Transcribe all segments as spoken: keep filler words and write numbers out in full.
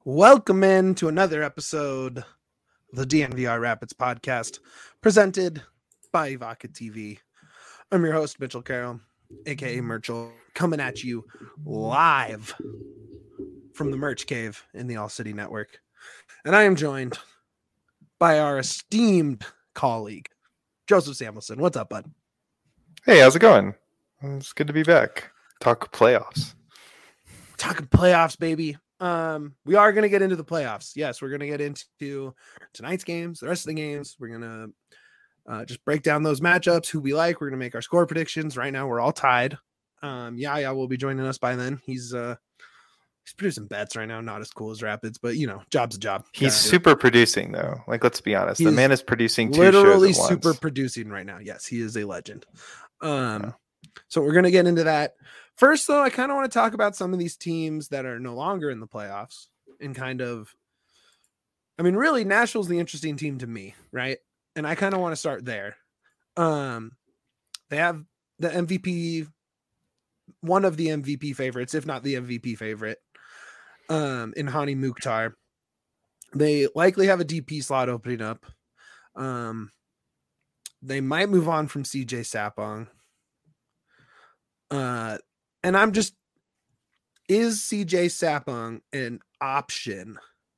Welcome in to another episode of the D N V R Rapids podcast, presented by Evoca T V. I'm your host, Mitchell Carroll, aka Merchel, coming at you live from the Merch Cave in the All City Network. And I am joined by our esteemed colleague, Joseph Samuelson. What's up, bud? Hey, how's it going? It's good to be back. Talk playoffs. Talking playoffs, baby. Um, we are going to get into the playoffs. Yes, we're going to get into tonight's games, the rest of the games. We're going to uh, just break down those matchups, who we like. We're going to make our score predictions. Right now, we're all tied. Um, Yaya will be joining us by then. He's uh, he's producing bets right now. Not as cool as Rapids, but you know, job's a job. He's super producing, though. Like, let's be honest. He's the man is producing two literally shows at super once. producing right now. Yes, he is a legend. Um, yeah. So we're going to get into that. First, though, I kind of want to talk about some of these teams that are no longer in the playoffs and kind of, I mean, really, Nashville's the interesting team to me, right? And I kind of want to start there. Um, they have the M V P, one of the M V P favorites, if not the M V P favorite, um, in Hani Mukhtar. They likely have a D P slot opening up. Um, they might move on from C J Sapong. Uh, and I'm just, is C J Sapong an option,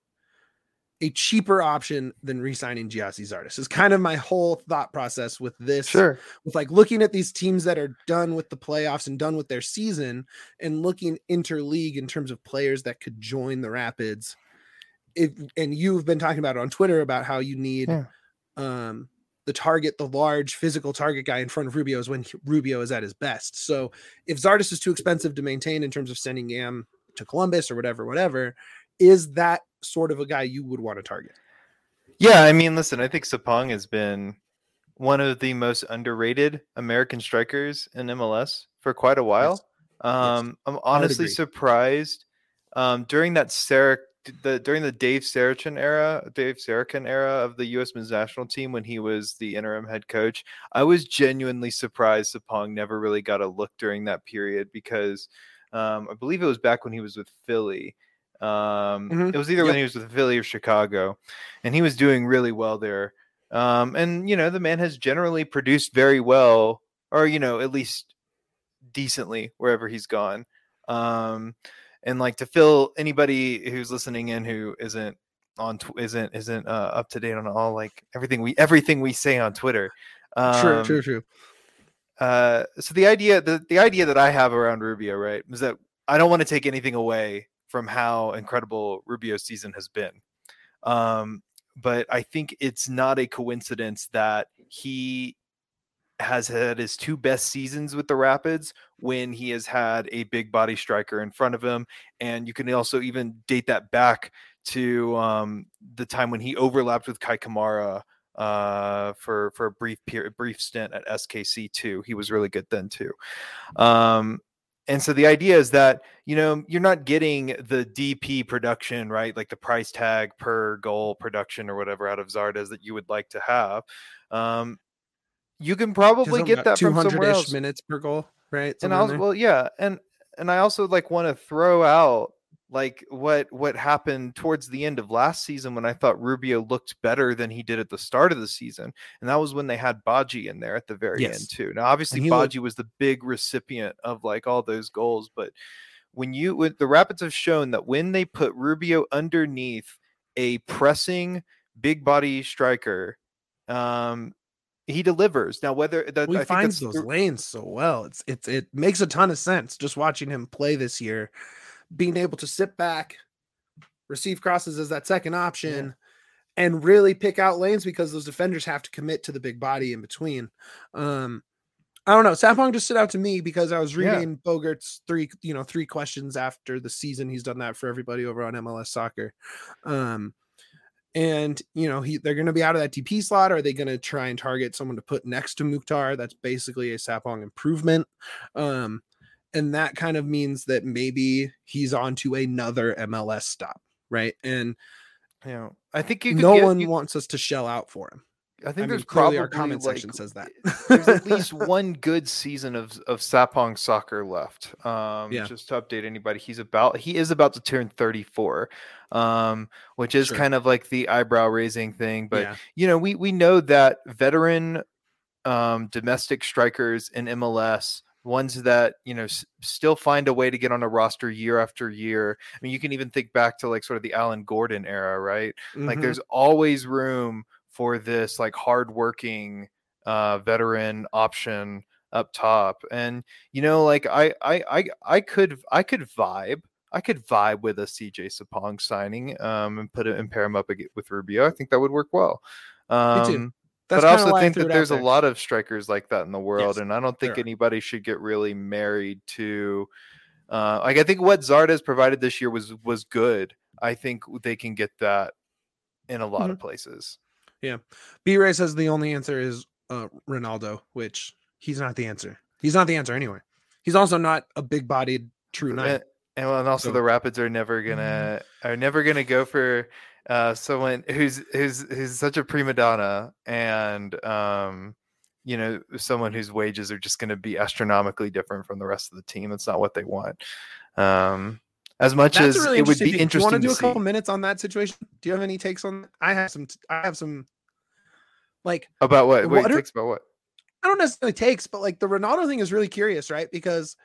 a cheaper option than re-signing Gyasi Zardes? Is kind of my whole thought process with this. Sure. With like looking at these teams that are done with the playoffs and done with their season and looking interleague in terms of players that could join the Rapids. If, and you've been talking about it on Twitter about how you need, yeah. um, the target, the large physical target guy in front of Rubio is when Rubio is at his best. So if Zardes is too expensive to maintain in terms of sending Yam to Columbus or whatever, whatever, is that sort of a guy you would want to target? Yeah, I mean, listen, I think Sapong has been one of the most underrated American strikers in M L S for quite a while. Yes. Um, yes. I'm honestly surprised um, during that Sarek The during the Dave Sarachan era, Dave Sarachan era of the U S men's national team when he was the interim head coach, I was genuinely surprised Sapong never really got a look during that period because um, I believe it was back when he was with Philly. Um, mm-hmm. It was either yep. when he was with Philly or Chicago, and he was doing really well there. Um, and you know, the man has generally produced very well, or you know, at least decently wherever he's gone. Um, And like to fill anybody who's listening in who isn't on tw- isn't isn't uh, up to date on all like everything we everything we say on Twitter. Um, true, true, true. Uh, so the idea the the idea that I have around Rubio, right, is that I don't want to take anything away from how incredible Rubio's season has been. Um, but I think it's not a coincidence that he has had his two best seasons with the Rapids when he has had a big body striker in front of him. And you can also even date that back to um, the time when he overlapped with Kai Kamara uh, for, for a brief period, brief stint at S K C too. He was really good then too. Um, and so the idea is that, you know, you're not getting the D P production, right? Like the price tag per goal production or whatever out of Zardes that you would like to have. Um, You can probably get that from somewhere else. minutes per goal, right? And I was, well, yeah, and and I also like want to throw out like what what happened towards the end of last season when I thought Rubio looked better than he did at the start of the season, and that was when they had Badji in there at the very yes. end too. Now, obviously, Badji looked... was the big recipient of like all those goals, but when you when the Rapids have shown that when they put Rubio underneath a pressing big body striker, um. he delivers. Now, whether that well, he I finds think those lanes so well, it's it's it makes a ton of sense just watching him play this year, being able to sit back, receive crosses as that second option, yeah. and really pick out lanes because those defenders have to commit to the big body in between. Um, I don't know. Sapong just stood out to me because I was reading yeah. Bogart's three, you know, three questions after the season. He's done that for everybody over on M L S Soccer. Um, And, you know, he they're going to be out of that D P slot. Or are they going to try and target someone to put next to Mukhtar? That's basically a Sapong improvement. Um, and that kind of means that maybe he's on to another M L S stop, right? And, you know, I think you could no get, one you, wants us to shell out for him. I think I there's mean, clearly probably our comment like, section says that. there's at least one good season of of Sapong soccer left. Um, Yeah. just to update anybody, he's about he is about to turn thirty-four, um, which is Sure. kind of like the eyebrow raising thing. But Yeah. you know, we we know that veteran um, domestic strikers in M L S, ones that you know s- still find a way to get on a roster year after year. I mean, you can even think back to like sort of the Alan Gordon era, right? Mm-hmm. Like, there's always room for this like hardworking uh, veteran option up top, and you know, like I, I, I, I could, I could vibe. I could vibe with a C J Sapong signing, um, and put it and pair him up ag- with Rubio. I think that would work well. Um, Me too. That's but I kind of also why I think threw that it out there's a there. lot of strikers like that in the world, Yes, and I don't think there are. anybody should get really married to. Uh, like I think what Zardes provided this year was was good. I think they can get that in a lot Mhm. of places. Yeah. B-Ray says the only answer is uh, Ronaldo, which he's not the answer. He's not the answer anyway. He's also not a big-bodied true nine. And, and well, and also So- the Rapids are never gonna are never gonna go for uh, someone who's who's who's such a prima donna, and um, you know, someone whose wages are just gonna be astronomically different from the rest of the team. That's not what they want. Um, as much That's as a really it would interesting be thing. Do you want interesting to do to a couple see. minutes on that situation? Do you have any takes on that? I have some. I have some. Like About what? Wait, what are- takes about what? I don't necessarily takes, but like the Ronaldo thing is really curious, right? Because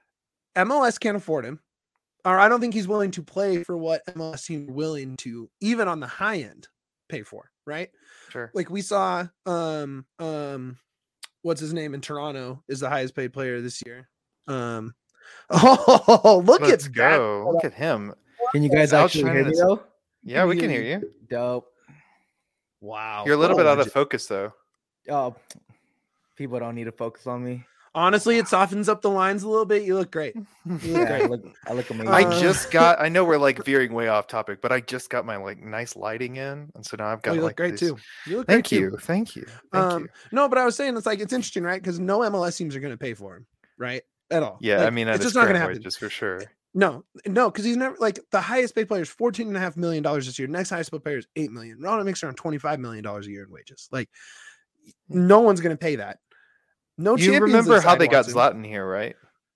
M L S can't afford him, or I don't think he's willing to play for what M L S seems willing to, even on the high end, pay for, right? Sure. Like we saw, um, um, what's his name in Toronto is the highest paid player this year. Um, oh, look Let's at go. that. Look at him. Can you guys Out actually hear shining me us. though? Yeah, we can hear you. Dope. Wow, You're a little what bit out of legend. focus though. Oh, people don't need to focus on me. Honestly, it softens up the lines a little bit. You look great. You look Yeah, I great. look, I look amazing. I Uh, just got. I know we're like veering way off topic, but I just got my like nice lighting in, and so now I've Oh, got you look like great this- too. You look Thank great you, too. thank you, thank Um, you. no, but I was saying it's like it's interesting, right? Because no M L S teams are going to pay for him, right? At all. Yeah, Like, I mean, at it's his just not going current to happen. wages for sure. No, no, because he's never like the highest paid player is fourteen and a half million dollars this year. Next highest paid player is eight million. Ronaldo makes around twenty five million dollars a year in wages. Like, no one's going to pay that. No, You Champions remember League how side they got wants him. Zlatan here, right?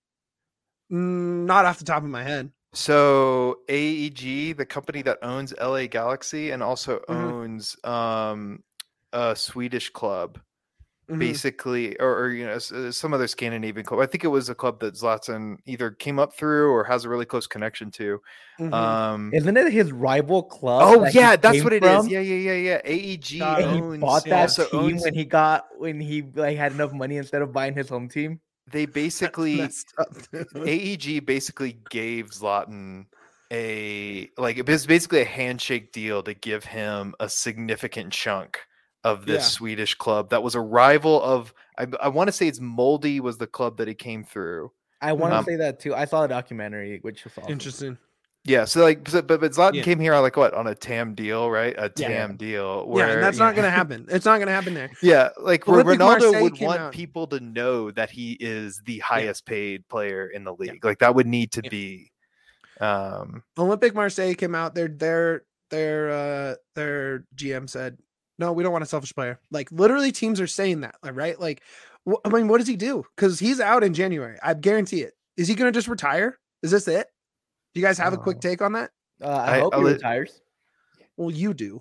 Mm, not off the top of my head. So A E G, the company that owns L A Galaxy and also Mhm. owns um, a Swedish club, Mhm. basically, or, or you know, s- uh, some other Scandinavian club. I think it was a club that Zlatan either came up through or has a really close connection to. Mhm. Um, Isn't it his rival club? oh that he yeah, that's came what it is. from? Yeah, yeah, yeah, yeah. A E G Got it. And he owns bought that also team owns. when he got when he like had enough money instead of buying his home team. They basically Messed up. A E G basically gave Zlatan a like it was basically a handshake deal to give him a significant chunk of this Yeah. Swedish club that was a rival of I, I want to say it's Moldy was the club that he came through. I want to Um, say that too. I saw a documentary, which was awesome. Interesting. Yeah, so like so, but but Zlatan Yeah. came here on like what on a T A M deal, right? A T A M Yeah. deal where Yeah, and that's you not know- going to happen. It's not going to happen there. Yeah, like Ro- Olympique Ronaldo Marseille would came want out- people to know that he is the highest paid player in the league. Like that would need to Yeah. be. Um, Olympique Marseille came out. Their their their uh their G M said, "No, we don't want a selfish player." Like literally, teams are saying that, like, right? Like, wh- I mean, what does he do? Because he's out in January. I guarantee it. Is he going to just retire? Is this it? Do you guys have a quick Oh. take on that? Uh, I, I- hope I'll he let- retires. Well, you do.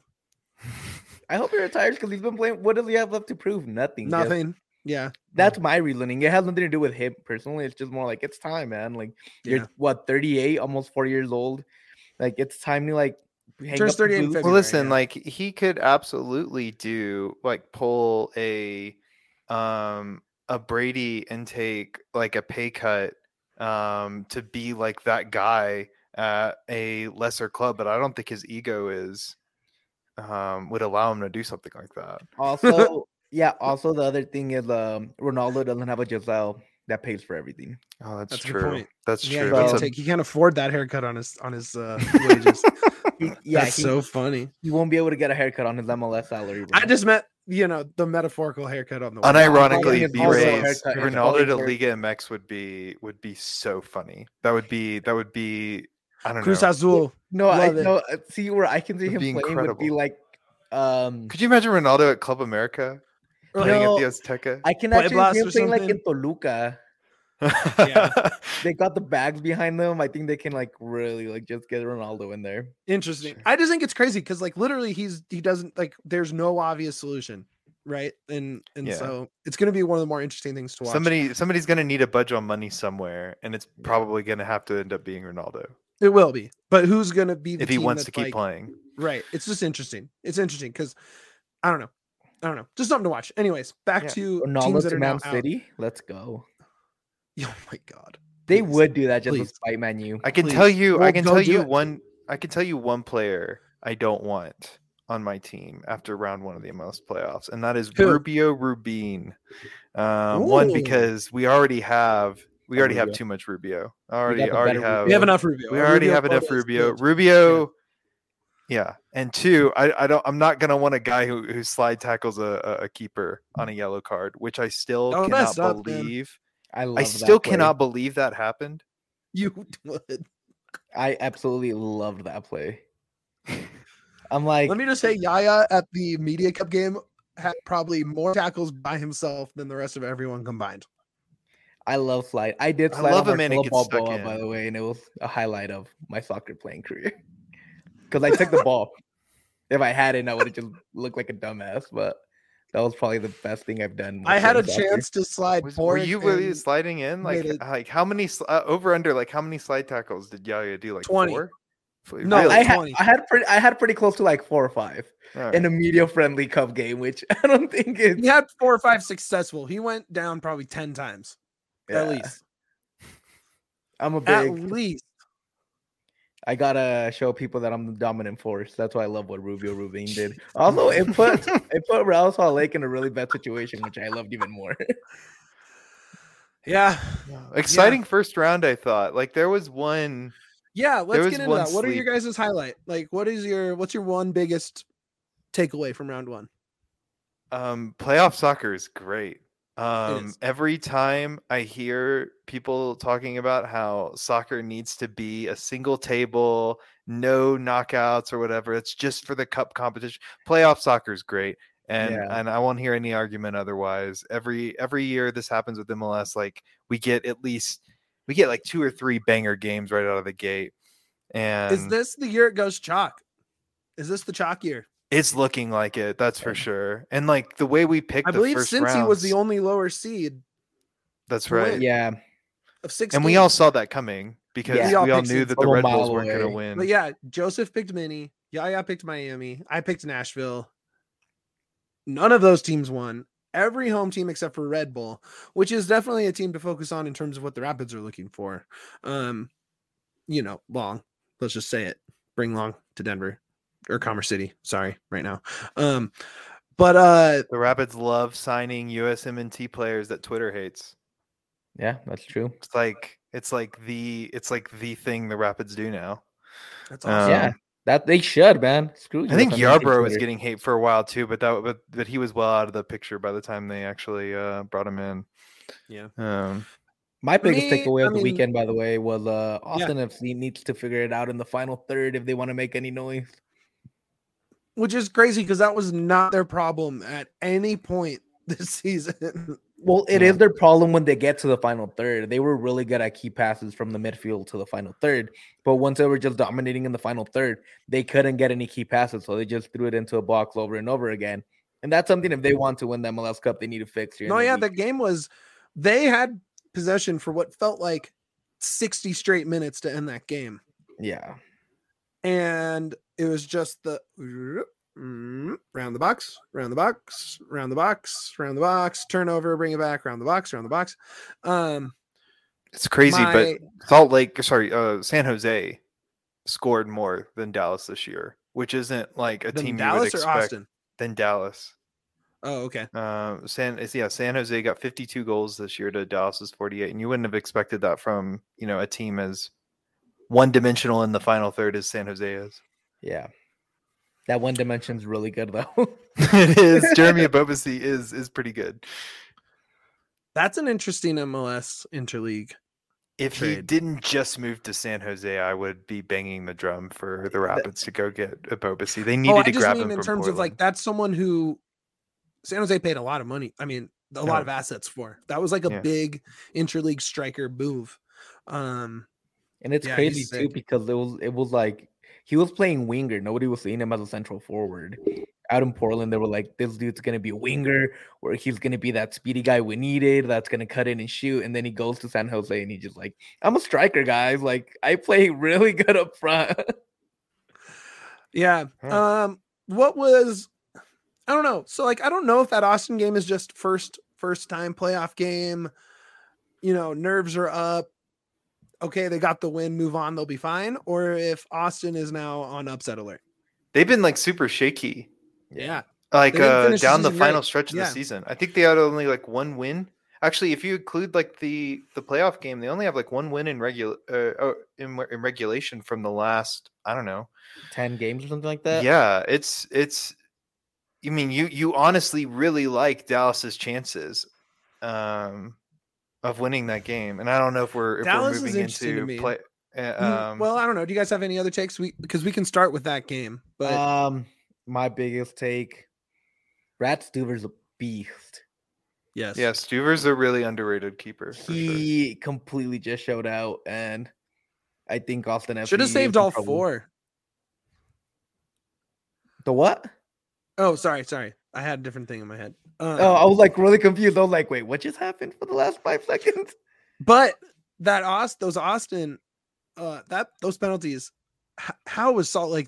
I hope he retires because he's been playing. What does he have left to prove? Nothing. Just- Nothing. Yeah. that's my reasoning. It has nothing to do with him personally. It's just more like it's time, man. Like Yeah. you're what thirty-eight, almost four years old. Like it's time to like hang Turns up the thirty-eight in boots. February. well, listen, yeah. like he could absolutely do like pull a um a Brady and take like a pay cut um to be like that guy at a lesser club, but I don't think his ego is um would allow him to do something like that. Also, yeah. Also, the other thing is, um, Ronaldo doesn't have a Giselle that pays for everything. Oh, that's, That's a good true. point. That's Yeah, true. he Well, That's can't, a, take, he can't afford that haircut on his on his uh, wages. He, yeah, That's he, so funny. he won't be able to get a haircut on his M L S salary. bro. I just met you know the metaphorical haircut on the unironically, it's B also a Ray's haircut. It's Ronaldo probably to for- Liga M X would be would be so funny. That would be that would be I don't Cruz know. Azul. No, I Love it. no. uh, See where I can see It'd him be playing would be incredible. like Um, Could you imagine Ronaldo at Club America playing no, at the Azteca? I can Play actually Blast see him or playing like in something? Toluca. Yeah. They got the bags behind them. I think they can like really like just get Ronaldo in there. Interesting. Sure. I just think it's crazy because like literally he's he doesn't like there's no obvious solution, right? And and Yeah. so it's gonna be one of the more interesting things to watch. Somebody somebody's gonna need a budge on money somewhere, and it's probably gonna have to end up being Ronaldo It will be, but who's gonna be the if he team wants that's to keep like, playing. right? It's just interesting. It's interesting because I don't know. I don't know. Just something to watch. Anyways, back Yeah. to Ronaldo teams that to are now Man out. City. Let's go. Oh my god. They Please. would do that just Please. to spite Man U. I can Please. tell you, Well, I can go tell do you it. one. I can tell you one player I don't want on my team after round one of the M L S playoffs, and that is Who? Rubio Rubin. Um, one Ooh. because we already have we A already have Rubio. too much Rubio. We Already got the already better have We have enough Rubio. we Our already Rubio have enough quota is Rubio. good. Rubio. Yeah, and two, I, I don't. I'm not gonna want a guy who, who slide tackles a, a, a keeper on a yellow card, which I still Oh, cannot messed up, man. believe. I love I that still play. cannot believe that happened. You would. I absolutely loved that play. I'm like, Let me just say, Yaya at the Media Cup game had probably more tackles by himself than the rest of everyone combined. I love slide. I did I slide love on a man who Marcelo gets stuck Balboa, in. by the way, and it was a highlight of my soccer playing career. Because I took the ball. If I hadn't, I would have just looked like a dumbass. But that was probably the best thing I've done. I had a playing soccer. chance to slide. Was, were Boric you really and sliding in? Like, made it- like how many sl- uh, over under? Like how many slide tackles did Yaya do? Like twenty. four? No, Really? I had twenty. I had pretty I had pretty close to like four or five All right. in a media friendly cup game, which I don't think is He had four or five successful. He went down probably ten times yeah. at least. I'm a At big. least. I gotta show people that I'm the dominant force. That's why I love what Rubio Rubin did. Also, it put it put Real Salt Lake in a really bad situation, which I loved even more. Yeah. Exciting first round, I thought. Like there was one. Yeah, let's was get into one that. What are your sleep. guys' highlight? Like what is your what's your one biggest takeaway from round one? Um, playoff soccer is great. Um, is. every time I hear people talking about how soccer needs to be a single table, no knockouts or whatever, it's just for the cup competition. Playoff soccer is great. And Yeah. and I won't hear any argument otherwise. Every every year this happens with M L S. Like we get at least we get like two or three banger games right out of the gate. And Is this the year it goes chalk? Is this the chalk year? it's looking like it, that's for sure. And like the way we picked I the believe first Cincy rounds, was the only lower seed that's to right. win. Yeah, of six. And we games. all saw that coming because Yeah. we We all all picked knew Cincy that the from a Red Bulls mile weren't going to away. win. But yeah, Joseph picked Mini. Yaya picked Miami. I picked Nashville. None of those teams won. Every home team except for Red Bull, which is definitely a team to focus on in terms of what the Rapids are looking for. Um, you know, Long. Let's just say it. Bring Long to Denver or Commerce City. Sorry, right now. Um, but uh, The Rapids love signing U S M N T players that Twitter hates. yeah, that's true. It's like it's like the it's like the thing the Rapids do now. that's Um, awesome. yeah, that they should, man. Screw you. I think if I'm on Yarbrough was Twitter. getting hate for a while too, but that but, but he was well out of the picture by the time they actually uh, brought him in. Yeah. Um, My biggest me, takeaway I of the mean- weekend, by the way, was uh, Yeah. Austin F C needs to figure it out in the final third if they want to make any noise. Which is crazy because that was not their problem at any point this season. Well, it Yeah. is their problem when they get to the final third. They were really good at key passes from the midfield to the final third. But once they were just dominating in the final third, they couldn't get any key passes. So they just threw it into a box over and over again. And that's something, if they want to win the M L S Cup, they need to fix here. in No, the yeah, week. the game was they had possession for what felt like sixty straight minutes to end that game. Yeah. And it was just the mm, round the box, round the box, round the box, round the box, turnover, bring it back, round the box, round the box. Um, it's crazy, my- but Salt Lake, sorry, uh, San Jose scored more than Dallas this year, which isn't like a then team you would Dallas or expect Austin? than Dallas. Oh, okay. Um, San it's, yeah, San Jose got fifty-two goals this year to Dallas's forty-eight, and you wouldn't have expected that from you know a team as one-dimensional in the final third as San Jose is. Yeah. That one dimension's really good, though. It is. Jeremy Abobasi is is pretty good. That's an interesting M L S interleague. If trade. he didn't just move to San Jose, I would be banging the drum for the Rapids to go get Ebobisse. They needed oh, I to just grab mean him in from terms Portland. of like that's someone who San Jose paid a lot of money. I mean, a lot Oh. of assets for. That was like a Yeah. big interleague striker move. Um, and it's yeah, crazy he's too sick. because it was it was like he was playing winger. Nobody was seeing him as a central forward. Out in Portland, they were like, this dude's gonna be a winger, or he's gonna be that speedy guy we needed that's gonna cut in and shoot. And then he goes to San Jose and he's just like, I'm a striker, guys. Like I play really good up front. Yeah. Yeah. Um, what was I don't know. So like I don't know if that Austin game is just first first time playoff game. You know, nerves are up. Okay, they got the win, move on, they'll be fine. Or if Austin is now on upset alert. They've been like super shaky. Yeah. Like They didn't uh, finish the down the season final great. stretch of Yeah. the season. I think they had only like one win. Actually, if you include like the the playoff game, they only have like one win in regular uh, oh, in, in regulation from the last, I don't know, ten games or something like that. Yeah, it's it's. I mean, you you honestly really like Dallas's chances um, of winning that game, and I don't know if we're if Dallas we're is moving interesting to into me. play. Uh, Mm, um, well, I don't know. Do you guys have any other takes? We because we can start with that game, but Um, my biggest take: Brad Stuver's a beast. yes, yeah, Stuver's a really underrated keeper. For sure. He completely just showed out, and I think Austin F C should have saved is in all trouble. four. The what? Oh, sorry, sorry. I had a different thing in my head. Um, Oh, I was like really confused. I was like, wait, what just happened for the last five seconds? but that Aust those Austin, uh, that those penalties. H- how was Salt Lake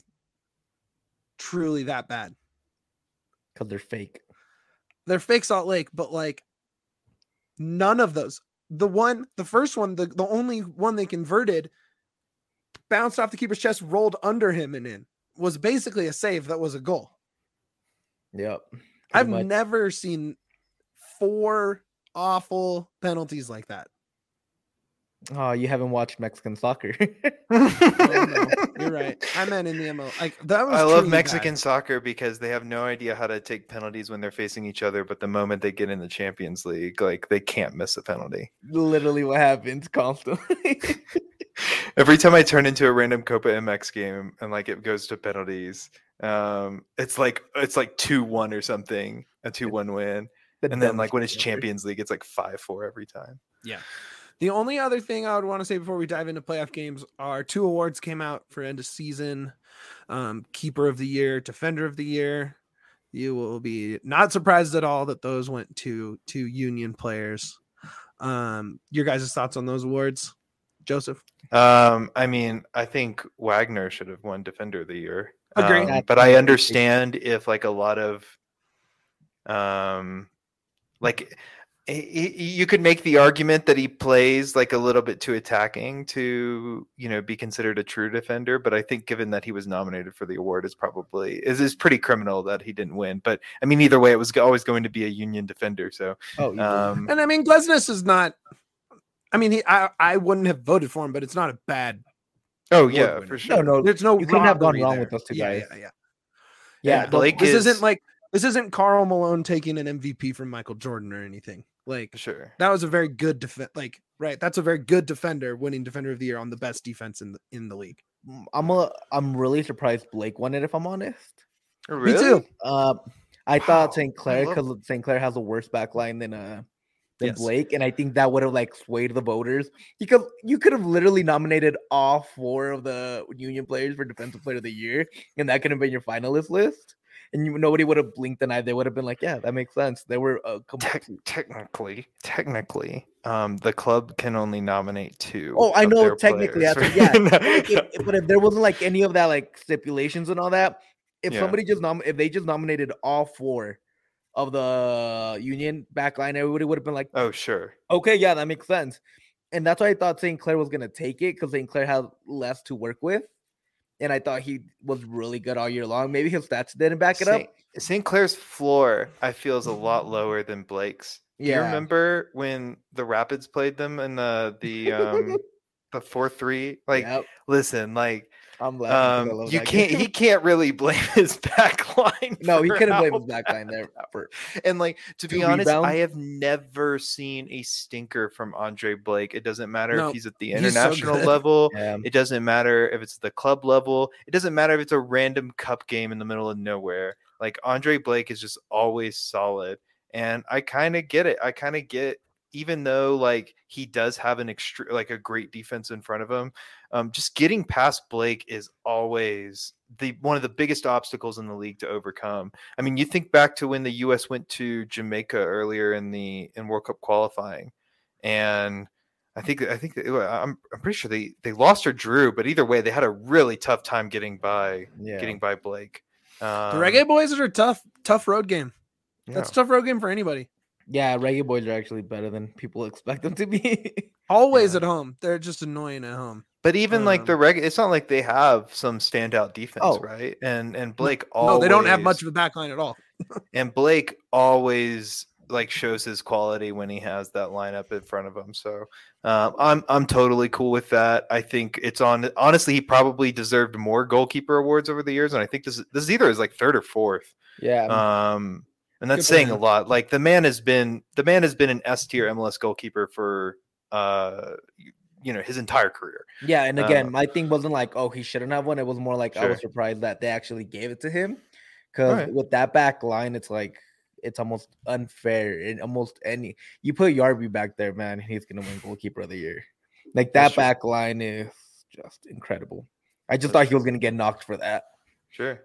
truly that bad? Because they're fake. They're fake Salt Lake, but like none of those. The one, the first one, the, the only one they converted bounced off the keeper's chest, rolled under him and in. Was basically a save that was a goal. Yep. I've much. never seen four awful penalties like that. Oh, you haven't watched Mexican soccer. Oh, no, you're right. I meant in the M L. Like that was. I love truly Mexican bad. soccer because they have no idea how to take penalties when they're facing each other, but the moment they get in the Champions League, like they can't miss a penalty. Literally what happens constantly. Every time I turn into a random Copa M X game and like it goes to penalties, um, it's like it's like two one or something, a two one win, The and then like dumbest when it's thing ever. Champions League, it's like five four every time. Yeah. The only other thing I would want to say before we dive into playoff games are two awards came out for end of season. Um, Keeper of the Year, Defender of the Year. You will be not surprised at all that those went to to Union players. Um, your guys' thoughts on those awards, Joseph? Um, I mean, I think Wagner should have won Defender of the Year. Agree. Um, That's but my I big understand if like a lot of, um, like he- he- you could make the argument that he plays like a little bit too attacking to, you know, be considered a true defender. But I think given that he was nominated for the award, is probably is is pretty criminal that he didn't win. But I mean, either way, it was always going to be a Union defender. So, Oh, you um, um, And I mean, Glesnes is not. I mean, he, I I wouldn't have voted for him, but it's not a bad. oh award yeah, winner. for sure. no, no. There's no. You couldn't have gone robbery wrong there. with those two Yeah, guys. yeah, yeah. Yeah, And the- Blake This is, isn't like this isn't Karl Malone taking an M V P from Michael Jordan or anything. Like sure. that was a very good defense. Like right, that's a very good defender winning Defender of the Year on the best defense in the in the league. I'm a, I'm really surprised Blake won it. If I'm honest, Really? Me too. uh, I Wow, thought Saint I Clair love- because Saint Clair has a worse back line than uh than Yes. Blake, and I think that would have like swayed the voters because you could have literally nominated all four of the Union players for Defensive Player of the Year, and that could have been your finalist list. And you, nobody would have blinked an eye. They would have been like, "Yeah, that makes sense." They were uh, Tec- complete. technically, technically, um, the club can only nominate two. Oh, I of know. their Technically, players. that's yeah. But, like, if, but if there wasn't like any of that like stipulations and all that, if Yeah. somebody just nom- if they just nominated all four of the Union backline, everybody would have been like, Oh, sure. okay, yeah, that makes sense. And that's why I thought Saint Clair was gonna take it because Saint Clair had less to work with, and I thought he was really good all year long. Maybe his stats didn't back it up. Saint, Saint Clair's floor, I feel, is a lot lower than Blake's. Do you Yeah. remember when the Rapids played them in the the um the four three? Like, Yep. listen, like I'm laughing. Um, you can't. Game. He can't really blame his back line. No, he couldn't blame his back line there. For, and like to be honest, rebounds. I have never seen a stinker from Andre Blake. It doesn't matter no, if he's at the international so level. Yeah. It doesn't matter if it's the club level. It doesn't matter if it's a random cup game in the middle of nowhere. Like Andre Blake is just always solid, and I kind of get it. I kind of get. Even though like he does have an extra like a great defense in front of him, um, just getting past Blake is always the one of the biggest obstacles in the league to overcome. I mean, you think back to when the U S went to Jamaica earlier in the in World Cup qualifying, and I think I think that, I'm I'm pretty sure they they lost or drew, but either way, they had a really tough time getting by yeah. getting by Blake. Um, the Reggae Boys are a tough tough road game. Yeah. That's a tough road game for anybody. Yeah, Reggae Boys are actually better than people expect them to be. Always yeah. at home. They're just annoying at home. But even um, like the Reggae, it's not like they have some standout defense, oh. right? And and Blake no, always... No, they don't have much of a back line at all. And Blake always like shows his quality when he has that lineup in front of him. So um, I'm I'm totally cool with that. I think it's on. Honestly, he probably deserved more goalkeeper awards over the years, and I think this is, this is either his like third or fourth. Yeah. Um. And that's saying a lot. Like the man has been the man has been an S tier M L S goalkeeper for uh you know his entire career. Yeah, and again, uh, my thing wasn't like, oh, he shouldn't have one. It was more like sure. I was surprised that they actually gave it to him. Because right. with that back line, it's like it's almost unfair. In almost any you put Yarby back there, man, he's gonna win goalkeeper of the year. Like that that's back true. line is just incredible. I just that's thought he was gonna get knocked for that. Sure.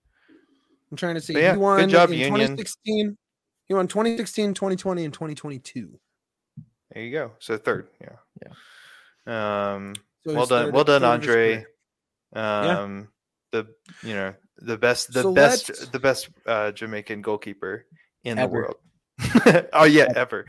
I'm trying to see. But yeah, he won good job, in Union. twenty sixteen. He won twenty sixteen, twenty twenty, and twenty twenty-two. There you go. So third, yeah, yeah. Um, so well done, third, well done, Andre. Um, yeah. the you know the best, the so best, let's... the best uh, Jamaican goalkeeper in ever. the world. Oh yeah, ever.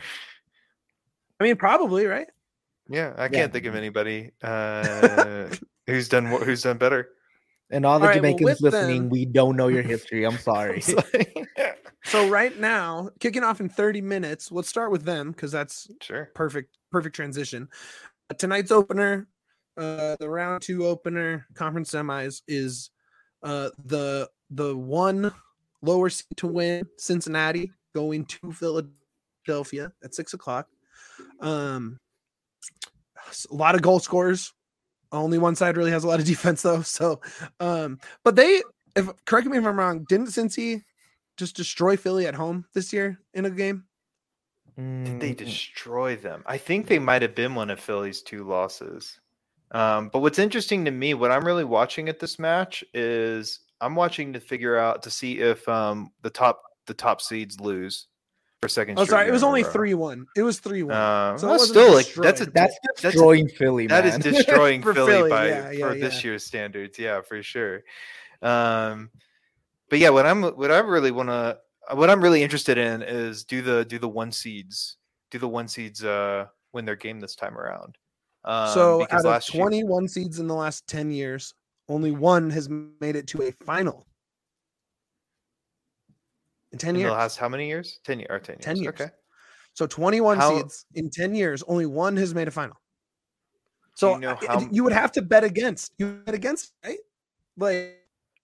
I mean, probably right. Yeah, I can't yeah. think of anybody uh, who's done who's done better. And all the all Jamaicans right, well, listening, them, we don't know your history. I'm sorry. So right now, kicking off in thirty minutes, let's start with them because that's sure perfect, perfect transition. Uh, tonight's opener, uh, the round two opener, conference semis is uh, the the one lower seed to win, Cincinnati, going to Philadelphia at six o'clock. Um, a lot of goal scorers. Only one side really has a lot of defense though. So, um, but they, if correct me if I'm wrong, didn't Cincy just destroy Philly at home this year in a game? Did they destroy them? I think they might have been one of Philly's two losses. Um, but what's interesting to me, what I'm really watching at this match is I'm watching to figure out to see if um, the top the top seeds lose. For second oh, sorry, it was only three one. It was three one. Uh, so well, still, like that's a that's destroying that's a, Philly. That man. is destroying Philly, Philly by yeah, yeah, for yeah. this year's standards. Yeah, for sure. Um, but yeah, what I'm what I really want to what I'm really interested in is do the do the one seeds do the one seeds uh win their game this time around. Um, so out of twenty-one year, seeds in the last ten years, only one has made it to a final. In ten in years. The last how many years? ten, or ten years. ten years. Okay. So twenty-one how, seeds in ten years, only one has made a final. So you, know how, you would have to bet against. You bet against, right? Like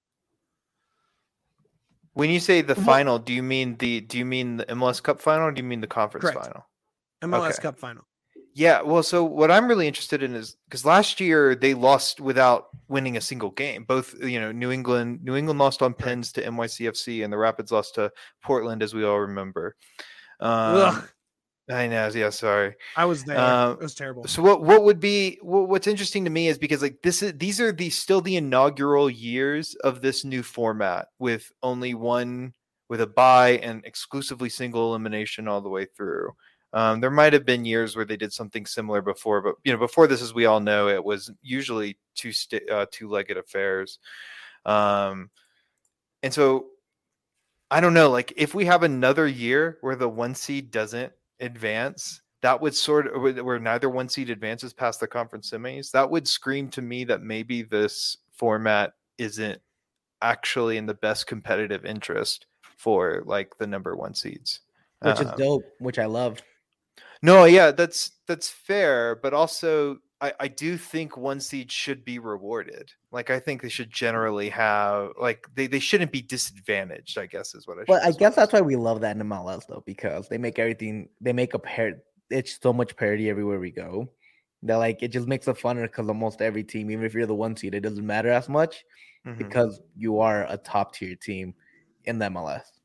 when you say the what? final, do you mean the do you mean the M L S Cup final or do you mean the conference Correct. final? M L S okay. Cup final. Yeah, well, so what I'm really interested in is because last year they lost without winning a single game. Both, you know, New England, New England lost on pens to N Y C F C, and the Rapids lost to Portland, as we all remember. Um, I know, yeah, sorry, I was there. Um, it was terrible. So what? What would be? What, what's interesting to me is because like this is these are the still the inaugural years of this new format with only one with a bye and exclusively single elimination all the way through. Um, there might have been years where they did something similar before, but you know, before this, as we all know, it was usually two st- uh, two-legged affairs. Um, and so, I don't know. Like, if we have another year where the one seed doesn't advance, that would sort of where neither one seed advances past the conference semis. That would scream to me that maybe this format isn't actually in the best competitive interest for like the number one seeds, which um, is dope, which I love. No, yeah, that's that's fair, but also I, I do think one seed should be rewarded. Like I think they should generally have like they, they shouldn't be disadvantaged, I guess is what I should But I guess that's say. why we love that in M L S though, because they make everything they make a pair it's so much parity everywhere we go. That like it just makes it funner because almost every team, even if you're the one seed, it doesn't matter as much Mhm. because you are a top tier team in the M L S.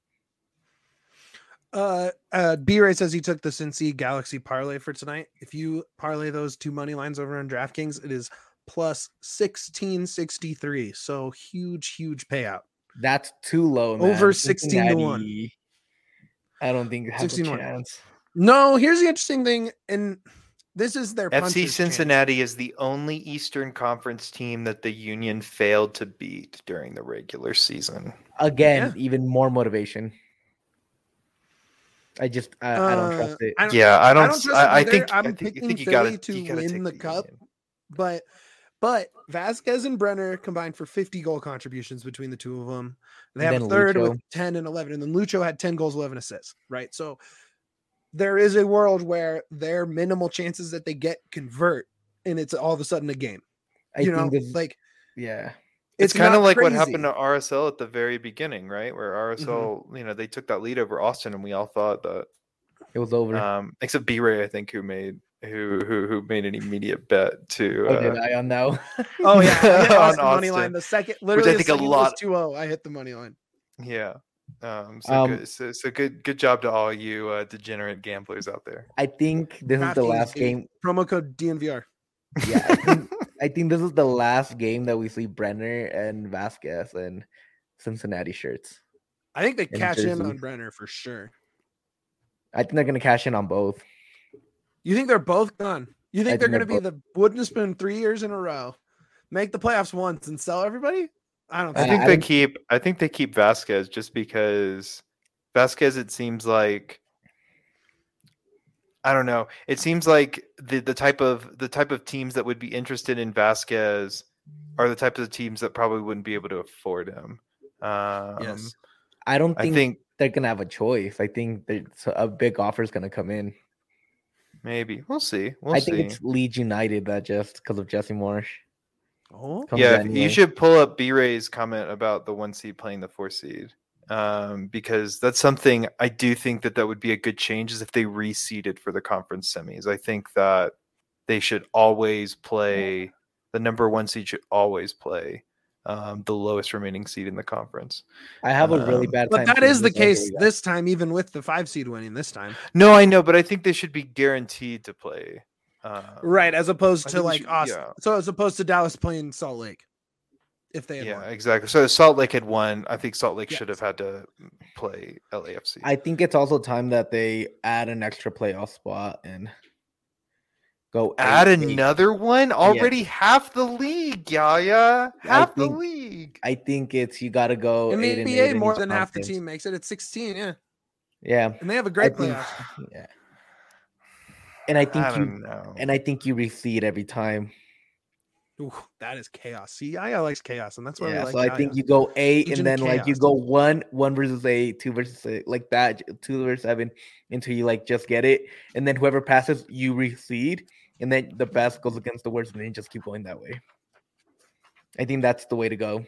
Uh, uh, B-Ray says he took the Cincy Galaxy parlay for tonight. If you parlay those two money lines over on DraftKings, it is plus sixteen sixty-three. So huge, huge payout. That's too low, man. Over sixteen to one. Cincinnati, I don't think it has a sixteen to one. chance. No, here's the interesting thing, and this is their F C puncher's Cincinnati chance. is the only Eastern Conference team that the Union failed to beat during the regular season. Again, Yeah. even more motivation. I just I, I don't Uh, trust it. I don't, Yeah, I don't. I don't trust I, it I either. think I'm I think, I picking think you Philly gotta, to you gotta win take the the cup. Union. But but Vasquez and Brenner combined for fifty goal contributions between the two of them. They And have a then third Lucho. with ten and eleven, and then Lucho had ten goals, eleven assists. Right, so there is a world where their minimal chances that they get convert, and it's all of a sudden a game. I You think know, this, like yeah. It's, it's, kind of not like crazy. what happened to R S L at the very beginning, right? Where R S L, Mm-hmm. you know, they took that lead over Austin, and we all thought that It was over. Um, except B-Ray, I think, who made who who who made an immediate bet to. oh, Uh, did I on now? Oh yeah, I hit on Austin money Austin, line. The second, literally, I the think a second lot- was two oh. I hit the money line. yeah. Um, so Um, good. So, so good. Good job to all you uh, degenerate gamblers out there. I think this is the DraftKings, last dude. game. Promo code D N V R. Yeah, I think, I think this is the last game that we see Brenner and Vasquez and Cincinnati shirts. I think they And cash in Jersey. on Brenner for sure. I think they're gonna cash in on both. You think they're both gone? You think I they're think going to be they're the wooden spoon three years in a row, make the playoffs once, and sell everybody? I don't I think. think I they don't- keep. I think they keep Vasquez just because Vasquez. It seems like. I don't know. It seems like the the type of the type of teams that would be interested in Vasquez are the types of teams that probably wouldn't be able to afford him. Um, Yes. I don't I think, think they're gonna have a choice. I think there's a big offer is gonna come in. maybe we'll see. We'll I see. think it's Leeds United that just because of Jesse Marsh. Oh, comes Yeah, anyway. you should pull up B-Ray's comment about the one seed playing the four seed, um, because that's something I do think that that would be a good change is if they reseeded for the conference semis. I think that they should always play the number one seed should always play um, the lowest remaining seed in the conference. I have a really Um, bad but time. that seeing is the this every case year. this time, even with the five seed winning this time, No, I know, but I think they should be guaranteed to play. Um, right? As opposed I to think we like should- Austin. yeah. So as opposed to Dallas playing Salt Lake, if they had Yeah, won. exactly. So Salt Lake had won. I think Salt Lake should Yes. have had to play L A F C. I think it's also time that they add an extra playoff spot and go Add eight, eight. another one? Already half the league, Yaya. Half the think- league. I think it's you got to go In eight the and N B eight A, in more each than half the conference. team makes it. It's sixteen, yeah, Yeah, and they have a I great think, playoff. yeah, and I think I you don't know. and I think you reseed every time. Ooh, that is chaos. See, Yaya likes chaos, and that's why we Yeah, like so I think Yaya. you go eight, Agent and of then like you Chaos. go one, one versus eight, two versus eight, like that, two versus seven, until you like just get it, and then whoever passes, you reseed, and then the best goes against the worst, and then you just keep going that way. I think that's the way to go.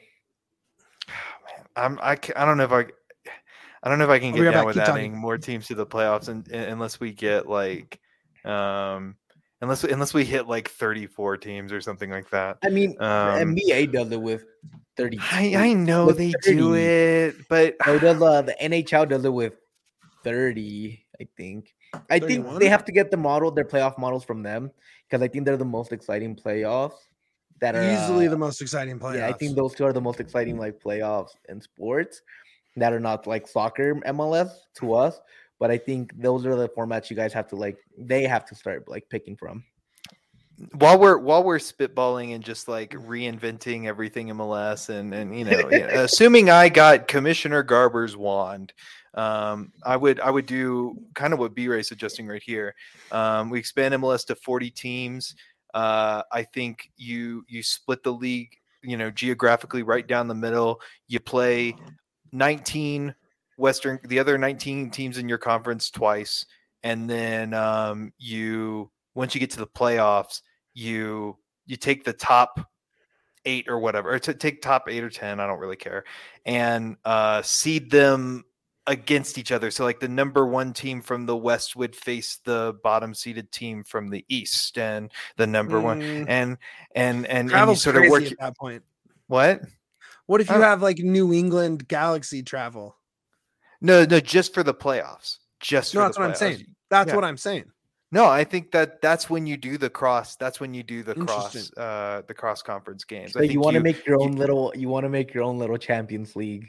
Man, I'm I, ca- I don't know if I I don't know if I can I'll get be right down back. with Keep talking. adding more teams to the playoffs and, unless we get like um unless unless we hit like thirty-four teams or something like that. I mean, the Um, N B A does it with thirty. I I know with they do thirty. it, but So does uh, the N H L does it with thirty, I think. I think thirty-one? they have to get the model, their playoff models from them, because I think they're the most exciting playoffs that are Easily uh, the most exciting playoffs. yeah, I think those two are the most exciting like playoffs in sports that are not like soccer M L S to us. But I think those are the formats you guys have to like they have to start like picking from. while we're while we're spitballing and just like reinventing everything M L S and and you know, you know, assuming I got Commissioner Garber's wand, um, I would I would do kind of what B-Ray's suggesting right here. Um, we expand M L S to forty teams. Uh, I think you you split the league, you know, geographically right down the middle. You play nineteen Western, the other nineteen teams in your conference twice, and then um, you once you get to the playoffs, you you take the top eight or whatever, or to take top eight or ten, I don't really care, and uh, seed them against each other. So like the number one team from the West would face the bottom seeded team from the East, and the number mm. one and and and, and you sort of work at that point. What? What if you have like New England Galaxy travel? No, no, just for the playoffs. Just no, for that's the what playoffs. I'm saying. That's yeah. what I'm saying. No, I think that that's when you do the cross. That's when you do the cross, uh, the cross conference games. So I think you want to you, make your own you, little. You want to make your own little Champions League,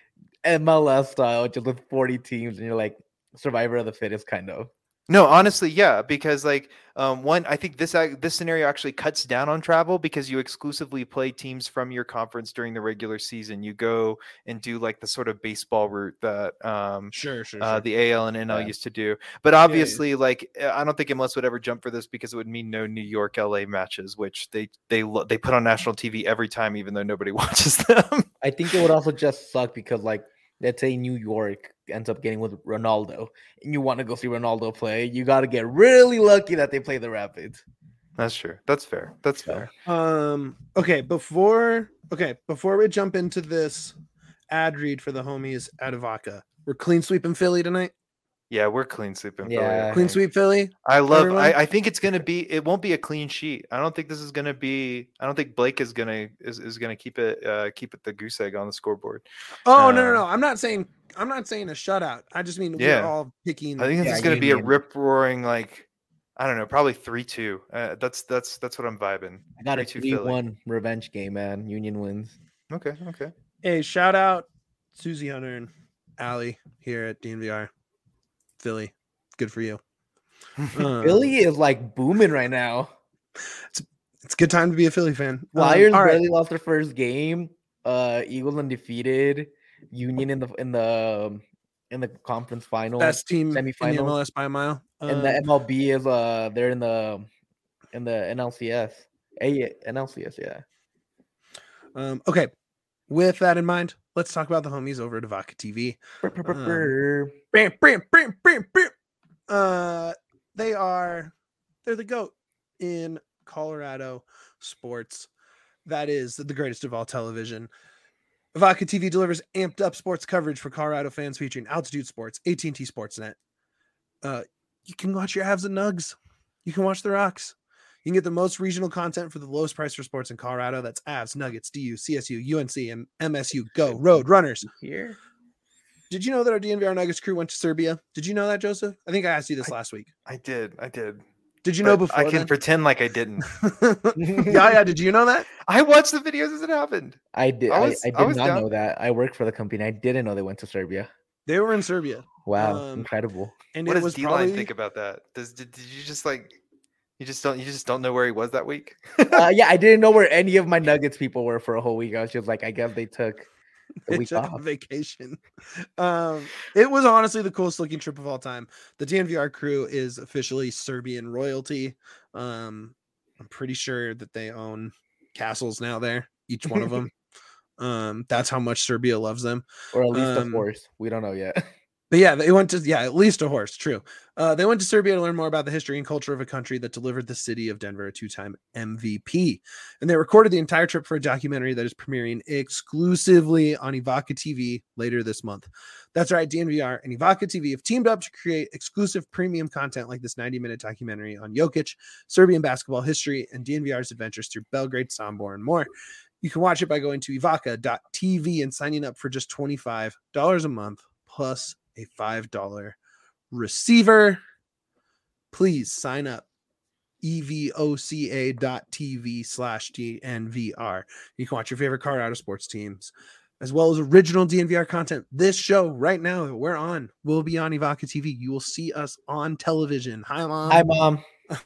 M L S style, just with forty teams, and you're like survivor of the fittest, kind of. No, honestly, yeah, because like um, one, I think this this scenario actually cuts down on travel because you exclusively play teams from your conference during the regular season. You go and do like the sort of baseball route that um, sure, sure, uh, sure. the A L and N L yeah. used to do. But obviously, yeah, yeah. like I don't think M L S would ever jump for this because it would mean no New York L A matches, which they they they put on national T V every time, even though nobody watches them. I think it would also just suck because like. Let's say New York ends up getting with Ronaldo and you want to go see Ronaldo play, you got to get really lucky that they play the Rapids. That's true. That's fair. That's fair. Um, okay. Before, okay. Before we jump into this ad read for the homies at Evoca, we're clean sweeping Philly tonight. Yeah, we're clean sweeping yeah. Philly. Clean sweep Philly. I love. I, I think it's gonna be. It won't be a clean sheet. I don't think this is gonna be. I don't think Blake is gonna is, is gonna keep it uh, keep it the goose egg on the scoreboard. Oh uh, no no no! I'm not saying I'm not saying a shutout. I just mean yeah. we're all picking. I think this yeah, is gonna Union. be a rip roaring like. I don't know, probably three two. Uh, that's that's that's what I'm vibing. I got a three one revenge game, man. Union wins. Okay, okay. Hey, shout out Susie Hunter and Allie here at D N V R Philly. Good for you. Uh, Philly is like booming right now. It's it's a good time to be a Philly fan. Flyers um, barely right. lost their first game. Uh, Eagles undefeated. Union in the in the in the conference final. Best team semifinal. in the M L S by a mile. And um, the M L B is uh they're in the in the N L C S. A N L C S, yeah. Um, okay. With that in mind, let's talk about the homies over at Evoca T V. Um, bam, bam, bam, bam, bam. Uh, they are they're the GOAT in Colorado sports. That is the greatest of all television. Evoca T V delivers amped up sports coverage for Colorado fans featuring Altitude Sports, A T and T Sportsnet. Uh, you can watch your Avs and Nugs. You can watch the Rocks. You can get the most regional content for the lowest price for sports in Colorado. That's Avs, Nuggets, D U, C S U, U N C, and M S U. Go Road Runners. Here. Did you know that our D N V R Nuggets crew went to Serbia? Did you know that, Joseph? I think I asked you this I, last week. I did. I did. Did you but know before? I can then? pretend like I didn't. yeah, yeah. Did you know that? I watched the videos as it happened. I did. I, was, I, I did I was not down. know that. I work for the company. I didn't know they went to Serbia. They were in Serbia. Wow, um, incredible. And what it does was D-Line probably... think about that? Does did, did you just like you just don't you just don't know where he was that week? uh, yeah, I didn't know where any of my Nuggets people were for a whole week. I was just like, I guess they took the week took off. a vacation. Um, it was honestly the coolest looking trip of all time. The D N V R crew is officially Serbian royalty. Um, I'm pretty sure that they own castles now there, each one of them. um, that's how much Serbia loves them. Or at least um, a horse. We don't know yet. But yeah, they went to, yeah, at least a horse. True. Uh, they went to Serbia to learn more about the history and culture of a country that delivered the city of Denver a two-time M V P. And they recorded the entire trip for a documentary that is premiering exclusively on Evoca T V later this month. That's right. D N V R and Evoca T V have teamed up to create exclusive premium content like this ninety minute documentary on Jokic, Serbian basketball history, and D N V R's adventures through Belgrade, Sombor, and more. You can watch it by going to evoca dot t v and signing up for just twenty-five dollars a month plus a five dollars receiver. Please sign up. evoca dot t v slash D N V R. You can watch your favorite Colorado sports teams, as well as original D N V R content. This show right now that we're on will be on Evoca T V. You will see us on television. Hi, Mom. Hi, Mom.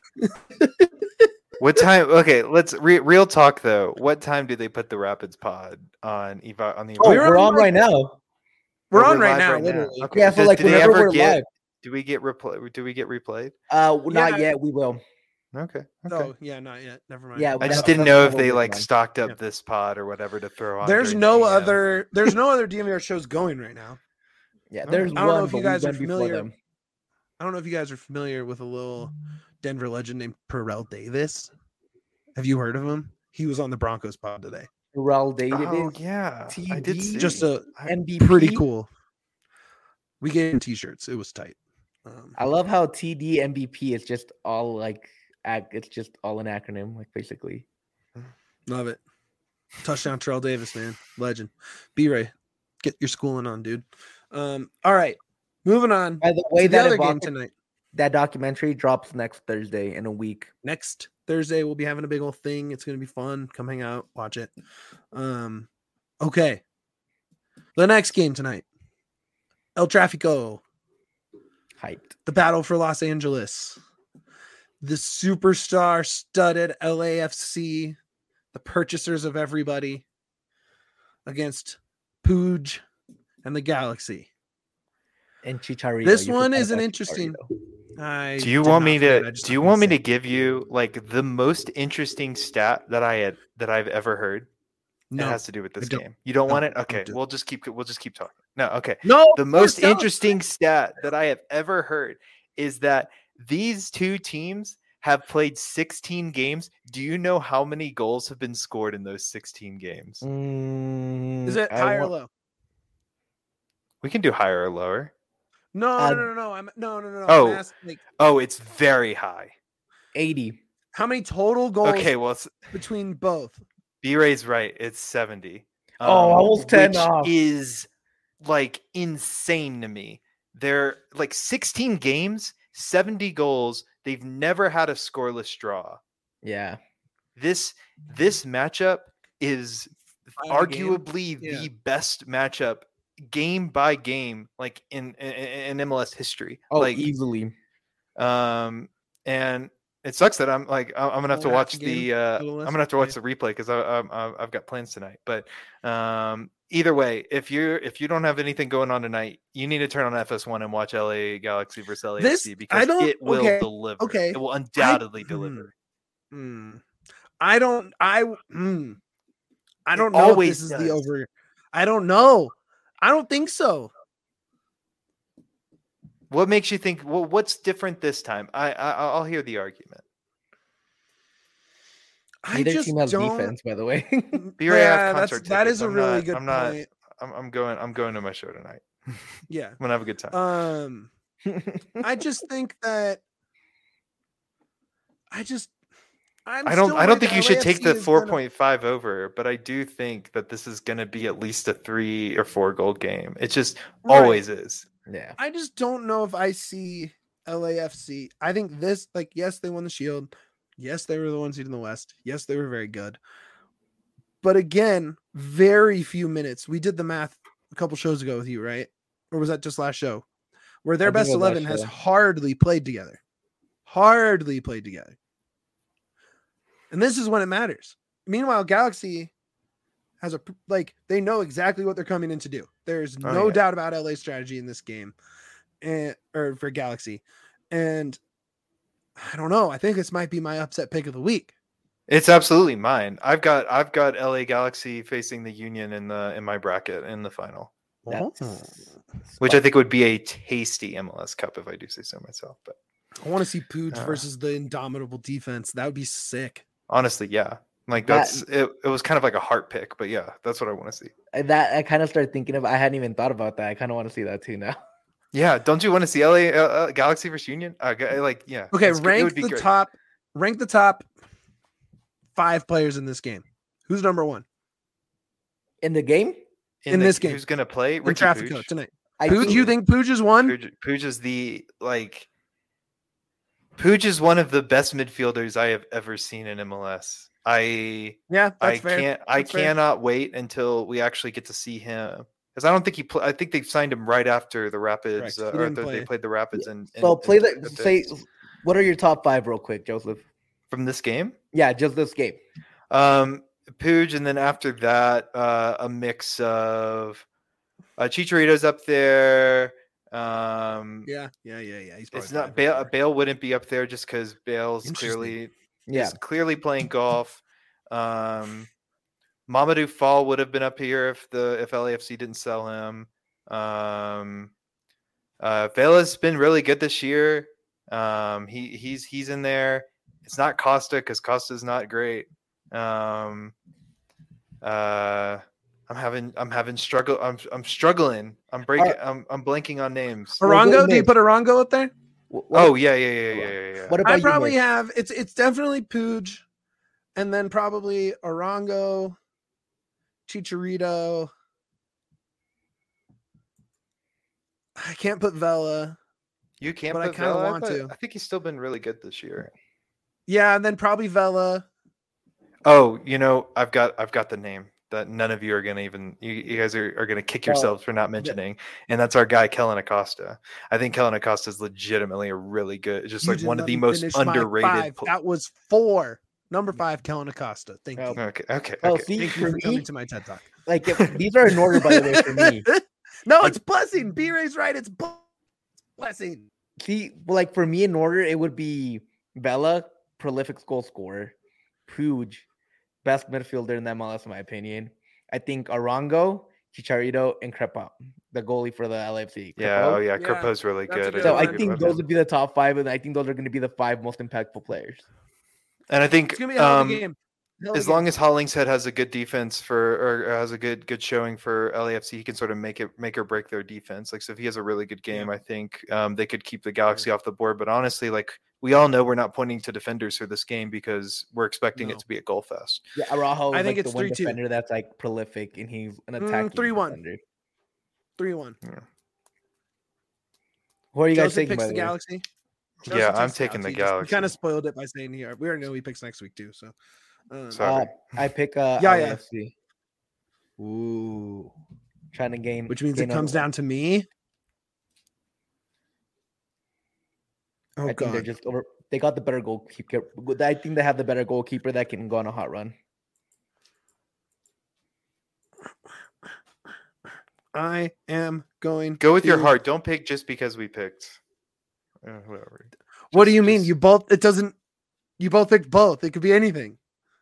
What time? Okay, let's re- real talk though. What time do they put the Rapids pod on Eva on the? Oh, we're, we're on right now. We're oh, on we're right now, right literally. Now. Okay. Yeah, so do, like do they whenever ever we're get? live. Do we get replay? Do we get replayed? Uh, not Yeah. yet. We will. Okay. Okay. Oh, yeah, not yet. Never mind. Yeah, I that's- just didn't that's know what if they we're like on. stocked up Yeah. this pod or whatever to throw on. There's during no the, um, other. There's no other D N V R shows going right now. Yeah, I there's don't one. know if you but guys we are went before familiar. them. I don't know if you guys are familiar with a little Denver legend named Perel Davis. Have you heard of him? He was on the Broncos pod today. Terrell Davis. Oh yeah, T D, I did see. Just a M V P. pretty cool. We gave him t-shirts. It was tight. Um, I love how T D M V P is just all like it's just all an acronym, like basically. Love it. Touchdown Terrell Davis, man. Legend. B-Ray, get your schooling on, dude. Um, all right. Moving on. By the way, to the that other evoc- game tonight. That documentary drops next Thursday in a week. Next Thursday, we'll be having a big old thing. It's going to be fun. Come hang out, watch it. Um, okay. The next game tonight. El Tráfico. Hyped. The battle for Los Angeles. The superstar studded L A F C. The purchasers of everybody. Against Pooj and the Galaxy. And Chicharito. This You one forgot is an about interesting. Chicharito. I Do you did want not me forget, to? I just Do you thought want me say to give you like the most interesting stat that I had that I've ever heard? no. It has to do with this don't. game. You don't No, want it? don't Okay, do it. we'll just keep we'll just keep talking. No, okay. No, The most don't. interesting stat that I have ever heard is that these two teams have played sixteen games. Do you know how many goals have been scored in those sixteen games? Mm, Is it I high or want- low? We can do higher or lower. No, Uh, no, no, no, no. I'm no, no, no, no. Oh. I'm asking, like, Oh, it's very high. eighty. how many total goals Okay, well, it's, between both? B-Ray's right. It's seventy. Oh, I was ten which off. is like insane to me. They're like sixteen games, seventy goals. They've never had a scoreless draw. Yeah. This this matchup is Final game? arguably Yeah. the best matchup game by game, like in in, in M L S history. Oh, like easily. um, and it sucks that I'm like I'm gonna have to Only half watch a the game, uh, a little I'm less? gonna have to watch Okay. the replay because I, I I've got plans tonight. But um, either way, if you if you don't have anything going on tonight, you need to turn on F S one and watch L A Galaxy versus L A F C This- because I don't- it will okay, deliver. okay. It will undoubtedly I- deliver. Hmm. I don't. I. Hmm. I It don't know if always this is does. the over. I don't know. I don't think so. What makes you think? Well, what's different this time? I, I I'll hear the argument. I Neither just team has don't. defense, by the way. B Ray, I have Yeah, that's concert that tickets. is a I'm really not- good I'm not- point. I'm, I'm going. I'm going to my show tonight. I'm Yeah. gonna have a good time. Um. I just think that. I just. I'm I don't. still I don't worried think that you should L A F take C the is four gonna- point five over, but I do think that this is going to be at least a three or four goal game. It just Right. always is. Yeah. I just don't know if I see L A F C. I think this, like, yes, they won the Shield. Yes, they were the one seed in the West. Yes, they were very good. But again, very few minutes. We did the math a couple shows ago with you, right? Or was that just last show? Where their I think best it was last eleven has show. hardly played together. Hardly played together. And this is when it matters. Meanwhile, Galaxy has a like they know exactly what they're coming in to do. There's Oh, no yeah. doubt about L A's strategy in this game, and or for Galaxy. And I don't know. I think this might be my upset pick of the week. It's absolutely mine. I've got. I've got L A Galaxy facing the Union in the in my bracket in the final, That's which I think would be a tasty M L S Cup if I do say so myself. But I want to see Pooj Uh. versus the indomitable defense. That would be sick. honestly, yeah, like That- that's it. It was kind of like a heart pick, but yeah, that's what I want to see. that I kind of started thinking of. I hadn't even thought about that. I kind of want to see that too now. Yeah, don't you want to see L A uh, uh, Galaxy versus Union? Uh, g- like, yeah. Okay, it's good. It rank would be the great. top. Rank the top five players in this game. Who's number one In the game, in the- this game. Who's gonna play? in Ricky Traffic Pooch. Code tonight? I Pooch, you think Pooch is one? Pooch, Pooch is the like. Pooch is one of the best midfielders I have ever seen in M L S. I Yeah, that's I fair. can't I That's fair. cannot wait until we actually get to see him because I don't think he play, I think they signed him right after the Rapids Correct. uh, He or didn't the- play. they played the Rapids and so. Play the say. What are your top five, real quick, Joseph? from this game. Yeah, just this game. Um, Pooch, and then after that, uh, a mix of uh, Chicharito's up there. Um, Yeah, yeah, yeah, yeah. He's it's probably not five Bale. up there. Bale wouldn't be up there just because Bale's Interesting. clearly Yeah, is clearly playing golf. Um, Mamadou Fall would have been up here if the if L A F C didn't sell him. Um, uh, Vela's been really good this year. Um, he he's he's in there. It's not Costa because Costa's not great. Um, uh, I'm having I'm having struggle. I'm I'm struggling. I'm breaking. Uh, I'm I'm blanking on names. Arango? Do you put Arango up there? What, oh yeah, yeah, yeah, yeah, yeah. yeah. What about I probably you, have. It's it's definitely Puig, and then probably Arango, Chicharito. I can't put Vela. You can't, but put I kind of Vela? want I thought, to. I think he's still been really good this year. Yeah, and then probably Vela. Oh, you know, I've got I've got the name that none of you are gonna even you, you guys are, are gonna kick yourselves oh, for not mentioning, and that's our guy Kellen Acosta. I think Kellen Acosta is legitimately a really good, just you like one of the most underrated. Pl- that was four. Number five, Kellen Acosta. Thank oh, you. Okay, okay. Oh, okay. see, Thank you for me, coming to my TED Talk. Like if, these are in order, by the way, for me. No, like, it's blessing. B-Ray's right. It's blessing. See, like for me in order, it would be Vela, prolific goal scorer, Puig, best midfielder in the M L S in my opinion. I think Arango, Chicharito, and Crepa, the goalie for the L A F C. Crepo. Yeah, oh yeah, Crepo's really That's good. So I think those would be the top five, and I think those are going to be the five most impactful players. And I think it's gonna be a hell of a um, game. As long as Hollingshead has a good defense for, or has a good good showing for L A F C, he can sort of make it make or break their defense. Like, so if he has a really good game, yeah. I think um, they could keep the Galaxy yeah. off the board. But honestly, like we all know, we're not pointing to defenders for this game because we're expecting no. it to be a goal fest. Yeah, Araujo is I think like it's the one three, defender two. that's like prolific, and he's an attacking mm, three one. Defender. Three one. Yeah. Who are you guys Joseph taking? Picks By the, the Galaxy. Joseph yeah, I'm taking the Galaxy. He kind of spoiled it by saying here. We already know he picks next week too. So. Um, Sorry. Uh, I pick uh, yeah, L A F C. Yeah. Ooh, trying to gain, which means gain it comes down to me. Oh, I think God. they're just over. They got the better goalkeeper. I think they have the better goalkeeper that can go on a hot run. I am going. Go with to... your heart. Don't pick just because we picked. Uh, whatever. Just, what do you just... mean? You both? It doesn't. You both picked both. It could be anything.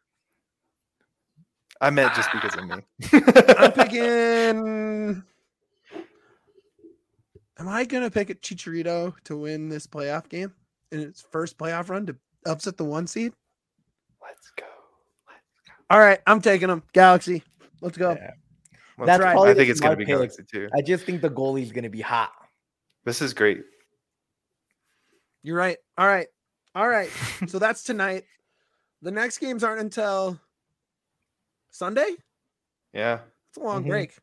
I meant just because of me. I'm picking. Am I gonna pick a Chicharito to win this playoff game in its first playoff run to upset the one seed? Let's go. Let's go. All right, I'm taking them. Galaxy. Let's go. Yeah. That's right. I think it's gonna be pick. Galaxy too. I just think the goalie's gonna be hot. This is great. You're right. All right. All right. So that's tonight. The next games aren't until Sunday. Yeah. It's a long mm-hmm. break.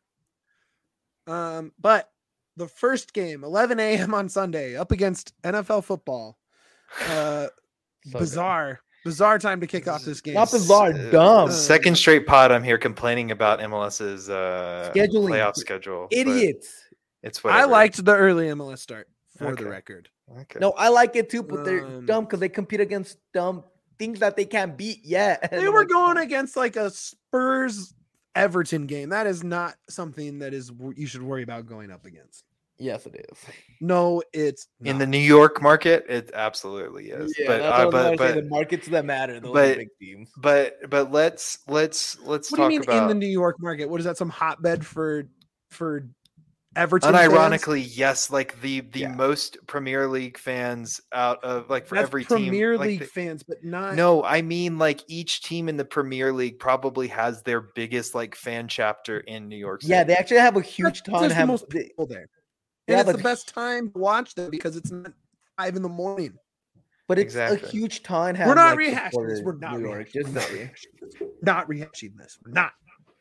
Um, but the first game, eleven a.m. on Sunday, up against N F L football. Uh, so bizarre, good. bizarre time to kick off this game. Not bizarre, dumb. Uh, second straight pod, I'm here complaining about M L S's uh, scheduling playoff schedule. Idiots. It's whatever. I liked the early M L S start for okay. the record. Okay. No, I like it too, but they're um, dumb because they compete against dumb things that they can't beat yet. They were like, going against like a Spurs Everton game. That is not something that is you should worry about going up against. Yes, it is. No, it's not. In the New York market. It absolutely is. Yeah, but that's uh, what but, but the markets that matter. Those but, are big teams. But but let's let's let's what talk do you mean about in the New York market. What is that? Some hotbed for for Everton? Unironically, fans? yes, like the the yeah. most Premier League fans out of like for That's every Premier team. League like the, fans, but not. No, I mean like each team in the Premier League probably has their biggest like fan chapter in New York City. Yeah, they actually have a huge That's, ton. Have most people there, and it's the best time to watch them because it's not five in the morning. But it's exactly. a huge ton. We're not like, rehashing this. We're not New York. Rehashing this. Not rehashing this. We're not.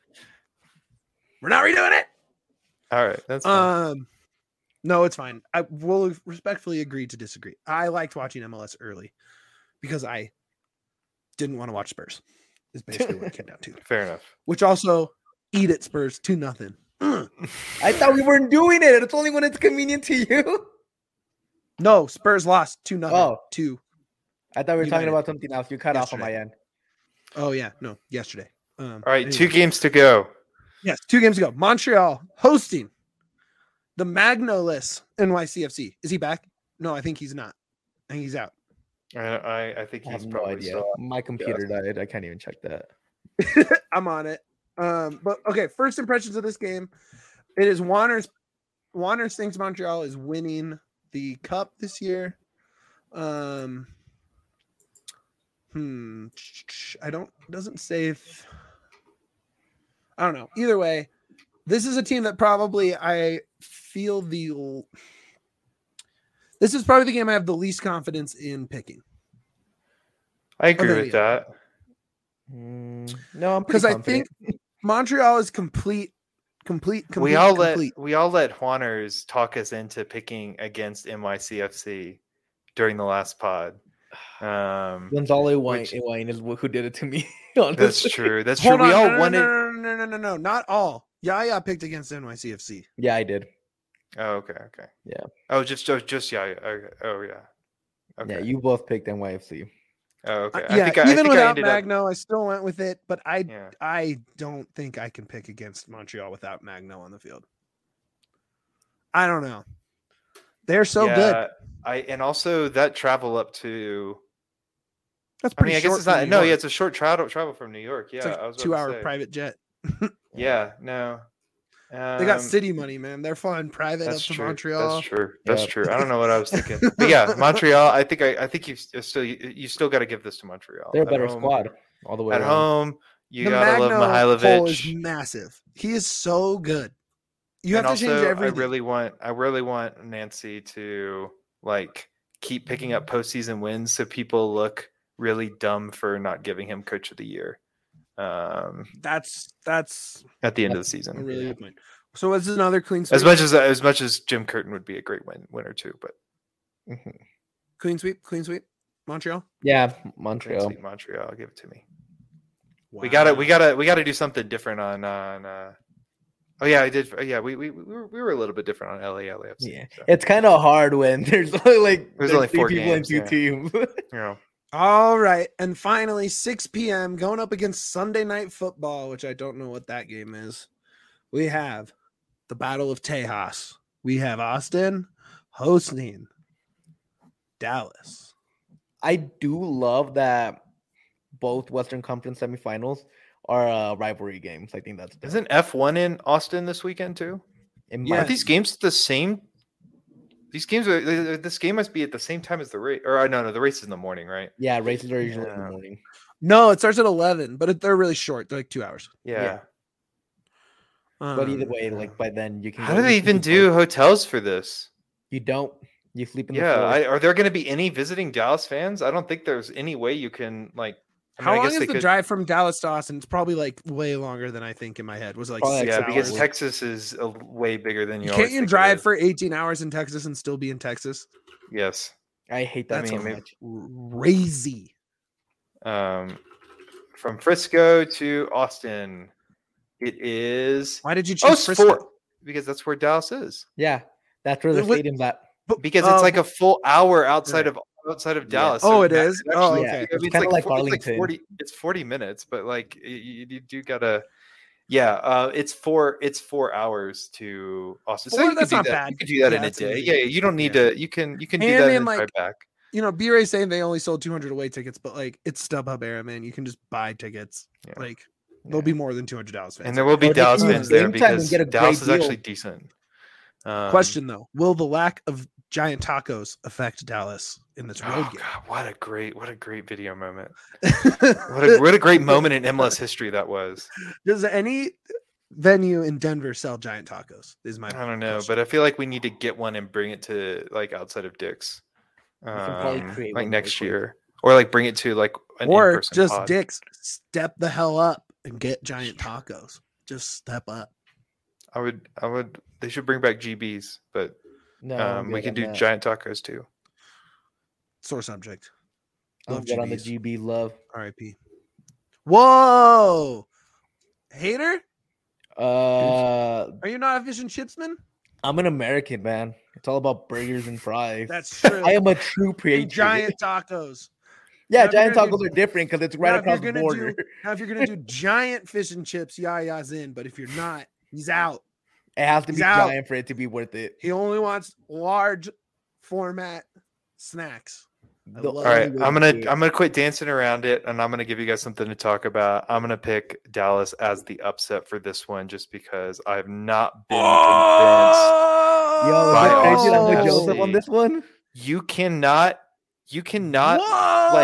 We're not redoing it. All right, that's fine. um. No, it's fine. I will respectfully agree to disagree. I liked watching M L S early because I didn't want to watch Spurs. Is basically what it came down to. Fair enough. Which also eat it Spurs two nothing. I thought we weren't doing it. It's only when it's convenient to you. No, Spurs lost two nothing. Oh, two. I thought we were United. talking about something else. You cut yesterday. off on my end. Oh yeah, no, yesterday. Um, All right, anyway. two games to go. Yes, two games to go. Montreal hosting the Magnoless N Y C F C. Is he back? No, I think he's not. I think he's out. I I, I think he's I probably no idea. Still, my computer yeah. died. I can't even check that. I'm on it. Um, but okay, first impressions of this game. It is Wanderers. Wanderers thinks Montreal is winning the cup this year. Um, Hmm. I don't. Doesn't say if. I don't know. Either way, this is a team that probably I feel the. This is probably the game I have the least confidence in picking. I agree with that. Mm, no, I'm because I think Montreal is complete, complete, complete. We all complete. let we all let Juaners talk us into picking against N Y C F C during the last pod. Um, Gonzalo Higuain is who did it to me. That's true. That's Hold true. On, we all no, wanted. No, no, no, no, no, no, not all. Yaya picked against N Y C F C. Yeah, I did. Oh, okay, okay. Yeah. Oh, just just, just Yaya. Okay. Oh, yeah. Okay. Yeah, you both picked N Y F C. Oh, okay. Uh, I yeah, think I, even I think without I Magno, up... I still went with it, but I yeah. I don't think I can pick against Montreal without Magno on the field. I don't know. They're so yeah, good. I and also that travel up to. That's I pretty mean, I guess short it's not. from New No, York. yeah, it's a short travel travel from New York. Yeah, It's like I was two hour say. private jet. Yeah, no. Um, They got city money, man. They're flying private up to true. Montreal. That's true. That's Yep. true. I don't know what I was thinking, but yeah, Montreal. I think I, I think you still you, you still got to give this to Montreal. They're a At better home, squad all the way at around. home. You the gotta Magno love hole is Mihailovic. massive. He is so good. You and have to also, change everything. I really want I really want Nancy to like keep picking up postseason wins so people look really dumb for not giving him coach of the year. Um, that's that's at the end that's of the season. a really good point. So what's another clean sweep? As much as as much as Jim Curtin would be a great win winner too, but Mm-hmm. clean sweep, clean sweep, Montreal. Yeah, Montreal. Sweep Montreal, give it to me. Wow. We gotta we gotta we gotta do something different on on. Uh, oh yeah, I did. Yeah, we we we were, we were a little bit different on L A L A F C. Yeah, so. it's kind of hard when there's only like there's, there's only three four people games, and two yeah. teams. Yeah. All right, and finally, six p.m. going up against Sunday Night Football, which I don't know what that game is. We have the Battle of Tejas. We have Austin hosting Dallas. I do love that both Western Conference semifinals are uh, rivalry games. I think that's dope. Isn't F one in Austin this weekend too? Yeah. Aren't these games the same? These games are. This game must be at the same time as the race. Or no, no, the race is in the morning, right? Yeah, races are usually yeah. in the morning. No, it starts at eleven, but it, they're really short. They're like two hours. Yeah. yeah. Um, But either way, like by then you can. How do they even do both. hotels for this? You don't. You sleep in the yeah. floor. I, are there going to be any visiting Dallas fans? I don't think there's any way you can like. I mean, How I long guess is they the could... drive from Dallas to Austin? It's probably like way longer than I think in my head. Was it like Probably six yeah, hours? because Texas is a, way bigger than you. Can't always you think drive for eighteen hours in Texas and still be in Texas? Yes. I hate that That's so I mean, much. Crazy. Um, from Frisco to Austin, it is. Why did you Oh, choose Frisco? four, because that's where Dallas is. Yeah, that's where the What- stadium's at. Because Oh, it's like a full hour outside right. of outside of Dallas. Oh, So it that- is? it Oh, actually- okay. I mean, It's it's kinda like four- it's like Arlington. forty. It's forty minutes, but like you, you, you do gotta. Yeah, uh, it's four. It's four hours to Austin. Four? so you can That's do not that. bad. You can do that Yeah, in a that's day. easy. Yeah, you don't need Yeah. to. You can you can do And that then, and like, drive back. You know, B-Ray's saying they only sold two hundred away tickets, but like it's StubHub era, man. You can just buy tickets. Yeah. Like there'll Yeah. be more than two hundred Dallas fans. And there will be Or they Dallas can use fans there Game Time and because get a Dallas great is deal. actually decent. Um, Question though, will the lack of giant tacos affect Dallas in this road Oh game? God, what a great, what a great video moment! What a what a great moment in M L S history that was. Does any venue in Denver sell giant tacos? Is my I don't know, question. but I feel like we need to get one and bring it to like outside of Dick's, can probably um, create like one next really quick. year, or like bring it to like an or in-person just pod. Dick's step the hell up and get giant tacos. Just step up. I would, I would. They should bring back G Bs, but No, I'm um, we good can on do that. giant tacos too. Sore subject. I'm Love good on the G Bs. G B love. R I P. Whoa, hater. Uh, Are you not a fish and chips man? I'm an American man. It's all about burgers and fries. That's true. I am a true patriot. And giant tacos. yeah, Now, if you're giant gonna tacos do- are different because it's Now, right if you're across the gonna border. do- Now, if you're gonna do giant fish and chips, Yaya's in. But if you're not, he's out. It has to He's be out. giant for it to be worth it. He only wants large format snacks. I The love All right, only way I'm to gonna do it. I'm gonna quit dancing around it, and I'm gonna give you guys something to talk about. I'm gonna pick Dallas as the upset for this one, just because I've not been convinced. Yo, By is it crazy that I'm Austin with Joseph F C. on this one? You cannot, you cannot Whoa! like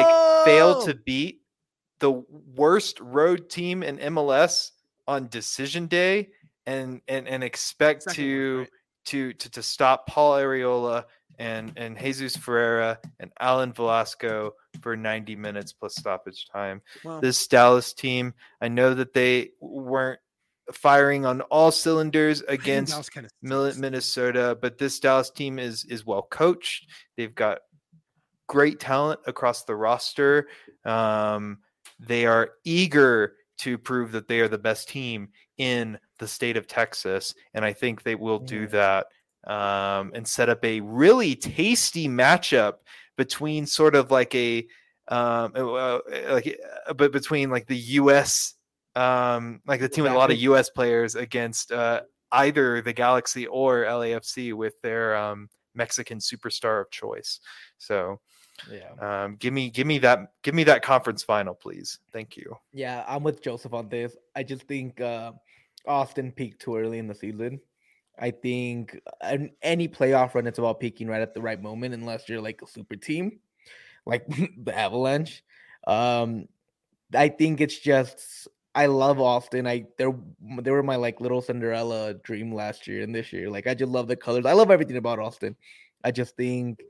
fail to beat the worst road team in M L S on decision day and and and expect Second to, one, right? to to to stop Paul Arriola and and Jesus Ferreira and Alan Velasco for ninety minutes plus stoppage time. Well, this Dallas team, I know that they weren't firing on all cylinders against kind of Minnesota, but this Dallas team is is well coached. They've got great talent across the roster. Um, they are eager to prove that they are the best team in the state of Texas, and I think they will do that um, and set up a really tasty matchup between sort of like a um, uh, like but between like the U S um, like the team with a lot of U S players against uh, either the Galaxy or L A F C with their um, Mexican superstar of choice. So yeah, um, give me give me that give me that conference final, please. Thank you. Yeah, I'm with Joseph on this. I just think uh, Austin peaked too early in the season. I think an, any playoff run, it's about peaking right at the right moment, unless you're like a super team, like the Avalanche. Um, I think it's just I love Austin. I they they were my like little Cinderella dream last year and this year. Like I just love the colors. I love everything about Austin. I just think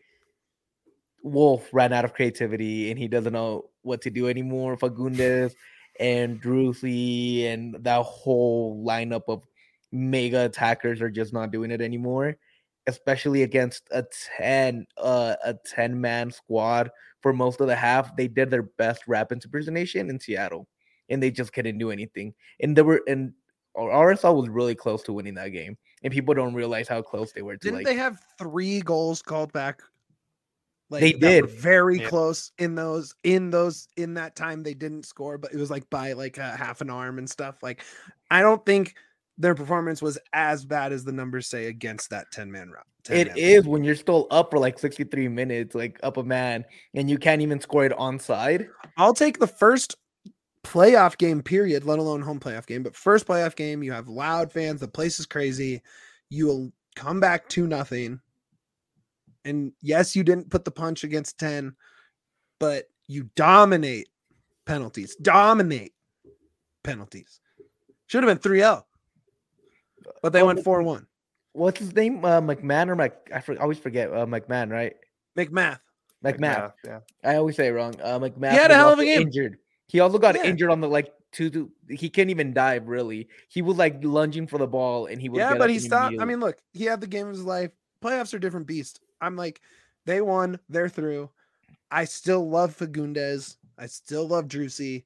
Wolf ran out of creativity and he doesn't know what to do anymore. Fagundes and Druzy and that whole lineup of mega attackers are just not doing it anymore, especially against a ten uh, a ten man squad for most of the half. They did their best rap impersonation in Seattle and they just couldn't do anything. And they were and R S L was really close to winning that game, and people don't realize how close they were to. Didn't like, they have three goals called back? Like they that did were very yeah. close in those in those in that time they didn't score, but it was like by like a half an arm and stuff. Like I don't think their performance was as bad as the numbers say against that ten man route. It is when you're still up for like sixty-three minutes, like up a man, and you can't even score it onside. I'll take the first playoff game period, let alone home playoff game, but first playoff game, you have loud fans, the place is crazy. You will come back to nothing. And yes, you didn't put the punch against ten, but you dominate penalties. Dominate penalties. Should have been three oh. But they oh, went four one. What's his name? Uh, McMahon or Mc? I for, always forget. Uh, McMahon, right? McMath. McMath. McMath. Yeah. I always say it wrong. Uh, McMath. He had a hell of a game. Injured. He also got yeah. injured on the like two, two. He couldn't even dive. Really, he was like lunging for the ball, and he would. Yeah, but he stopped. I mean, look, he had the game of his life. Playoffs are different beast. I'm like, they won. They're through. I still love Fagundes. I still love Druzy.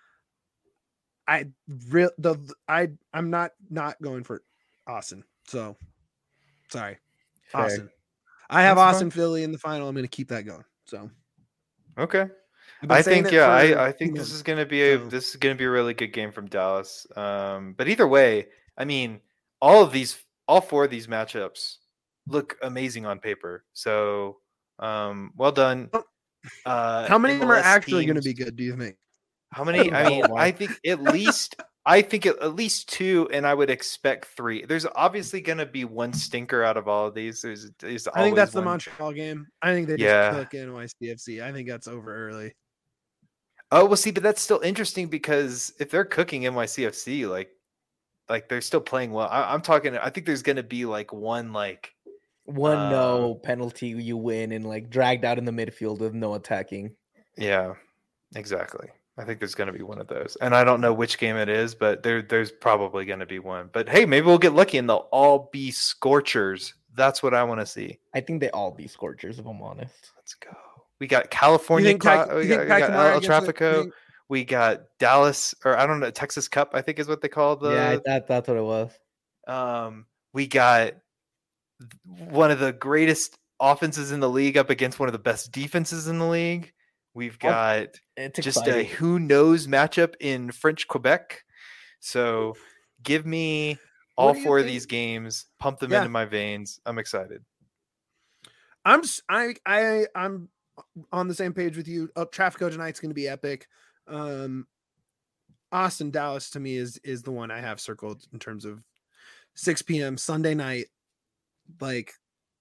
I real the I I'm not not going for Austin. So sorry, Fair. Austin. I have That's Austin fine. Philly in the final. I'm going to keep that going. So okay. I think yeah, I, I think this is going to be a so. this is going to be a really good game from Dallas. Um, but either way, I mean, all of these, all four of these matchups look amazing on paper. So um, well done. Uh, How many of them are actually going to be good? Do you think? How many? I mean, I think at least I think at least two, and I would expect three. There's obviously going to be one stinker out of all of these. There's, there's I think that's one. the Montreal game. I think they just yeah. cook N Y C F C. I think that's over early. Oh, well, see, but that's still interesting because if they're cooking N Y C F C, like, like they're still playing well. I, I'm talking. I think there's going to be like one, like one uh, no penalty you win and like dragged out in the midfield with no attacking. Yeah, exactly. I think there's going to be one of those, and I don't know which game it is, but there, there's probably going to be one. But hey, maybe we'll get lucky and they'll all be scorchers. That's what I want to see. I think they all be scorchers, if I'm honest. Let's go. We got California. We got, we got, we got El Trafico. We got Dallas, or I don't know, Texas Cup, I think is what they call the. Yeah, that, that's what it was. Um, we got one of the greatest offenses in the league up against one of the best defenses in the league. We've got just exciting. a who knows matchup in French Quebec. So give me all four think? of these games, pump them yeah. into my veins. I'm excited. I'm I I I'm on the same page with you. Oh, Trafico tonight's going to be epic. Um, Austin Dallas to me is is the one I have circled in terms of six p.m. Sunday night. Like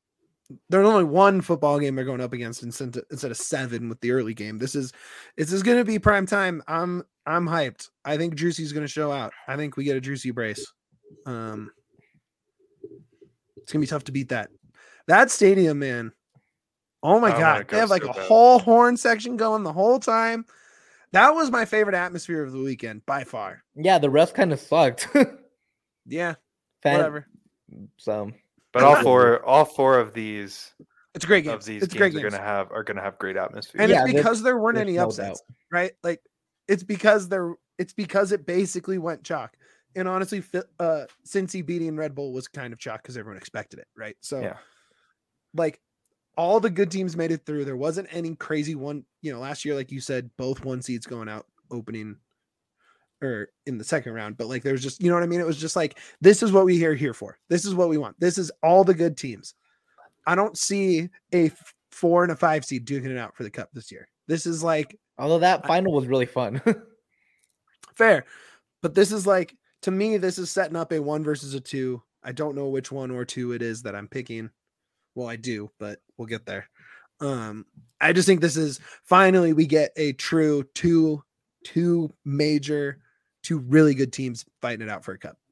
there's only one football game they're going up against instead of seven with the early game. This is this is going to be prime time. I'm I'm hyped. I think Juicy's going to show out. I think we get a Juicy brace. Um, it's gonna be tough to beat that. That stadium, man. Oh my god, go they have like so a bad. whole horn section going the whole time. That was my favorite atmosphere of the weekend by far. Yeah, the rest kind of sucked. yeah, Fan- whatever. So, but all four, all four of these, it's a great game. Of these it's games great are gonna have are gonna have great atmosphere, and yeah, it's because there weren't any no upsets, doubt. right? Like it's because there, it's because it basically went chalk. And honestly, uh, Cincy beating Red Bull was kind of chalk because everyone expected it, right? So, yeah. like all the good teams made it through. There wasn't any crazy one. You know, last year, like you said, both one seeds going out opening or in the second round. But like, there's just, you know what I mean? It was just like, this is what we are here for. This is what we want. This is all the good teams. I don't see a four and a five seed duking it out for the cup this year. This is like, although that final was really fun. Fair. But this is like, to me, this is setting up a one versus a two. I don't know which one or two it is that I'm picking. Well, I do, but we'll get there. Um, I just think this is finally we get a true two, two major, two really good teams fighting it out for a cup.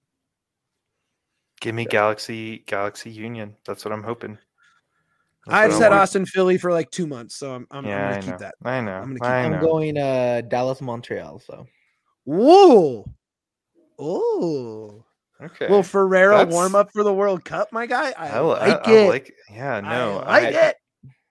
Give me Galaxy, Galaxy Union. That's what I'm hoping. That's I've said Austin, Philly for like two months, so I'm, I'm, yeah, I'm going to keep that. I know. I'm, keep I I'm know. going uh, Dallas, Montreal. So. Whoa. Oh. Okay. Well, Ferrero That's... warm up for the World Cup, my guy. I, I like I, it. I like, yeah, no, I like I, it.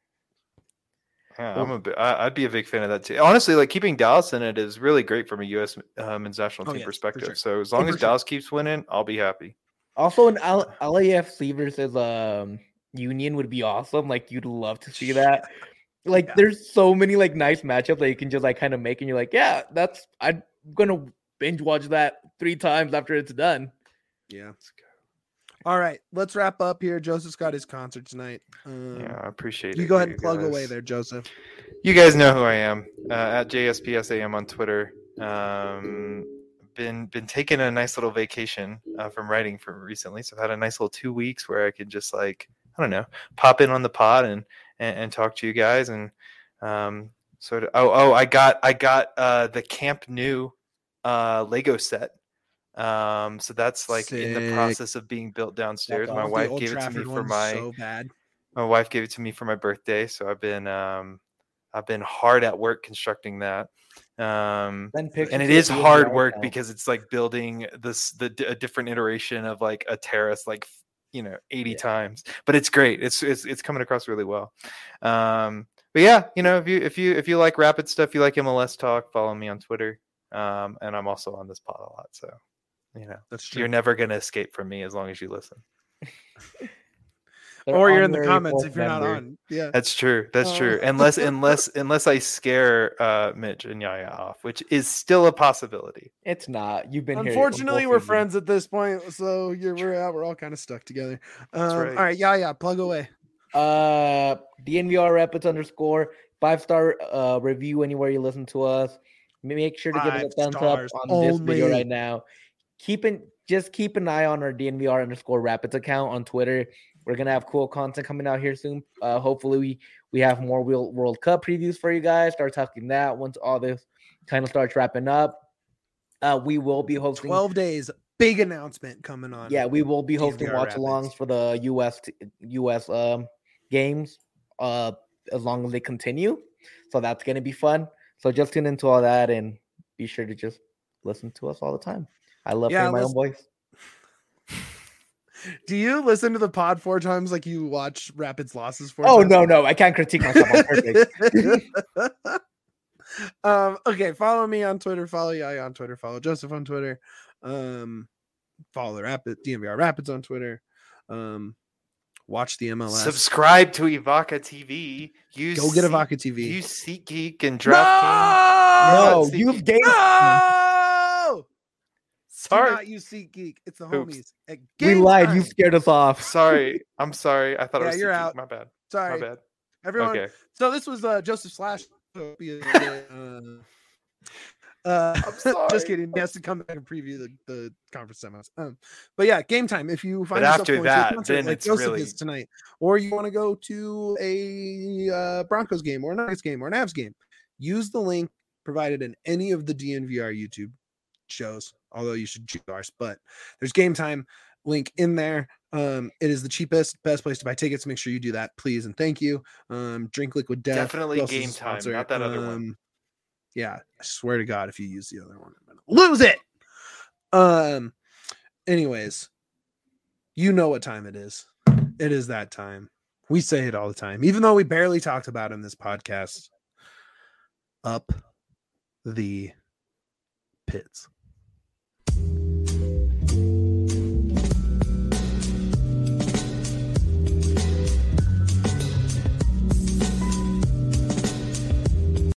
Yeah, I'm a bit, I, I'd be a big fan of that too. Honestly, like keeping Dallas in it is really great from a U S uh, men's national Oh, team yes, perspective. sure. So as long Oh, as for sure. Dallas keeps winning, I'll be happy. Also, an L- LAFC versus um Union would be awesome. Like you'd love to see that. Like Yeah. there's so many like nice matchups that you can just like kind of make, and you're like, yeah, that's I'm gonna binge watch that three times after it's done. Yeah. All right, let's wrap up here. Joseph's got his concert tonight. Um, Yeah, I appreciate it. you go ahead and you plug guys. away there, Joseph. You guys know who I am uh, at J S P S A M on Twitter. Um, been been taking a nice little vacation uh, from writing for recently, so I've had a nice little two weeks where I could just like I don't know pop in on the pod and and, and talk to you guys and um, sort of. Oh oh, I got I got uh, the Camp Nou uh, Lego set. Um, so that's like Sick. in the process of being built downstairs. That's My awesome. wife The Old gave it to Trafford me for one's my so bad. my wife gave it to me for my birthday. So I've been um I've been hard at work constructing that. Um Then pictures and it of is the hard N B A work account. because it's like building this the a different iteration of like a terrace like you know eighty Yeah. times. But it's great. It's it's it's coming across really well. Um but yeah, you know, if you if you if you like rapid stuff, you like M L S talk, follow me on Twitter. Um and I'm also on this pod a lot, so you know, That's true. you're never going to escape from me as long as you listen. They're Or you're in the honorary comments fourth if you're not member. on. Yeah. That's true. That's Oh. true. Unless, unless, unless I scare uh, Mitch and Yaya off, which is still a possibility. It's not. You've been here. Unfortunately, both we're seasons. friends at this point, so you're we're out. We're all kind of stuck together. Um, right. All right, yeah, yeah. Plug away. Uh, D N V R Rapids underscore five star uh review anywhere you listen to us. Make sure to give us Five a thumbs stars up on this video only. right now. Keep in, just keep an eye on our D N V R underscore Rapids account on Twitter. We're gonna have cool content coming out here soon. Uh, hopefully we we have more World World Cup previews for you guys. Start talking that once all this kind of starts wrapping up. Uh, we will be hosting Twelve days. Big announcement coming on. Yeah, we will be D N V R hosting watch-alongs Rapids. for the U S t- U S um, games uh, as long as they continue. So that's going to be fun. So just tune into all that and be sure to just listen to us all the time. I love Yeah, hearing my listen- own voice. Do you listen to the pod four times like you watch Rapids losses four Oh, times? no, no. I can't critique myself on purpose. um, okay, follow me on Twitter. Follow Yaya on Twitter. Follow Joseph on Twitter. Um, follow the Rapid D N V R Rapids on Twitter. Um, watch the M L S. Subscribe to Ivaka T V. Use Go get Seat- Ivaka T V. Use SeatGeek and DraftKings. No! No, use game. No! Sorry. Do not use SeatGeek. It's the Oops. homies. At We game lied. time. You scared us off. Sorry. I'm sorry. I thought Yeah, it was you're SeatGeek. out. My bad. Sorry, My bad. everyone. Okay. So this was uh, Joseph Slash. Uh, Uh, I'm sorry. Just kidding. He has to come back and preview the, the conference semis. Um, but yeah, game time. If you find but yourself after going that, to a concert then like it's Joseph really is tonight, or you want to go to a uh, Broncos game or a Nuggets game or an Avs game, use the link provided in any of the D N V R YouTube shows. Although you should choose ours, but there's game time link in there. Um, it is the cheapest, best place to buy tickets. Make sure you do that, please and thank you. Um, Drink Liquid Death. Definitely game time, not that um, other one. Yeah, I swear to God, if you use the other one, I'm gonna lose it. Um, anyways, you know what time it is. It is that time. We say it all the time, even though we barely talked about it in this podcast. Up the pits.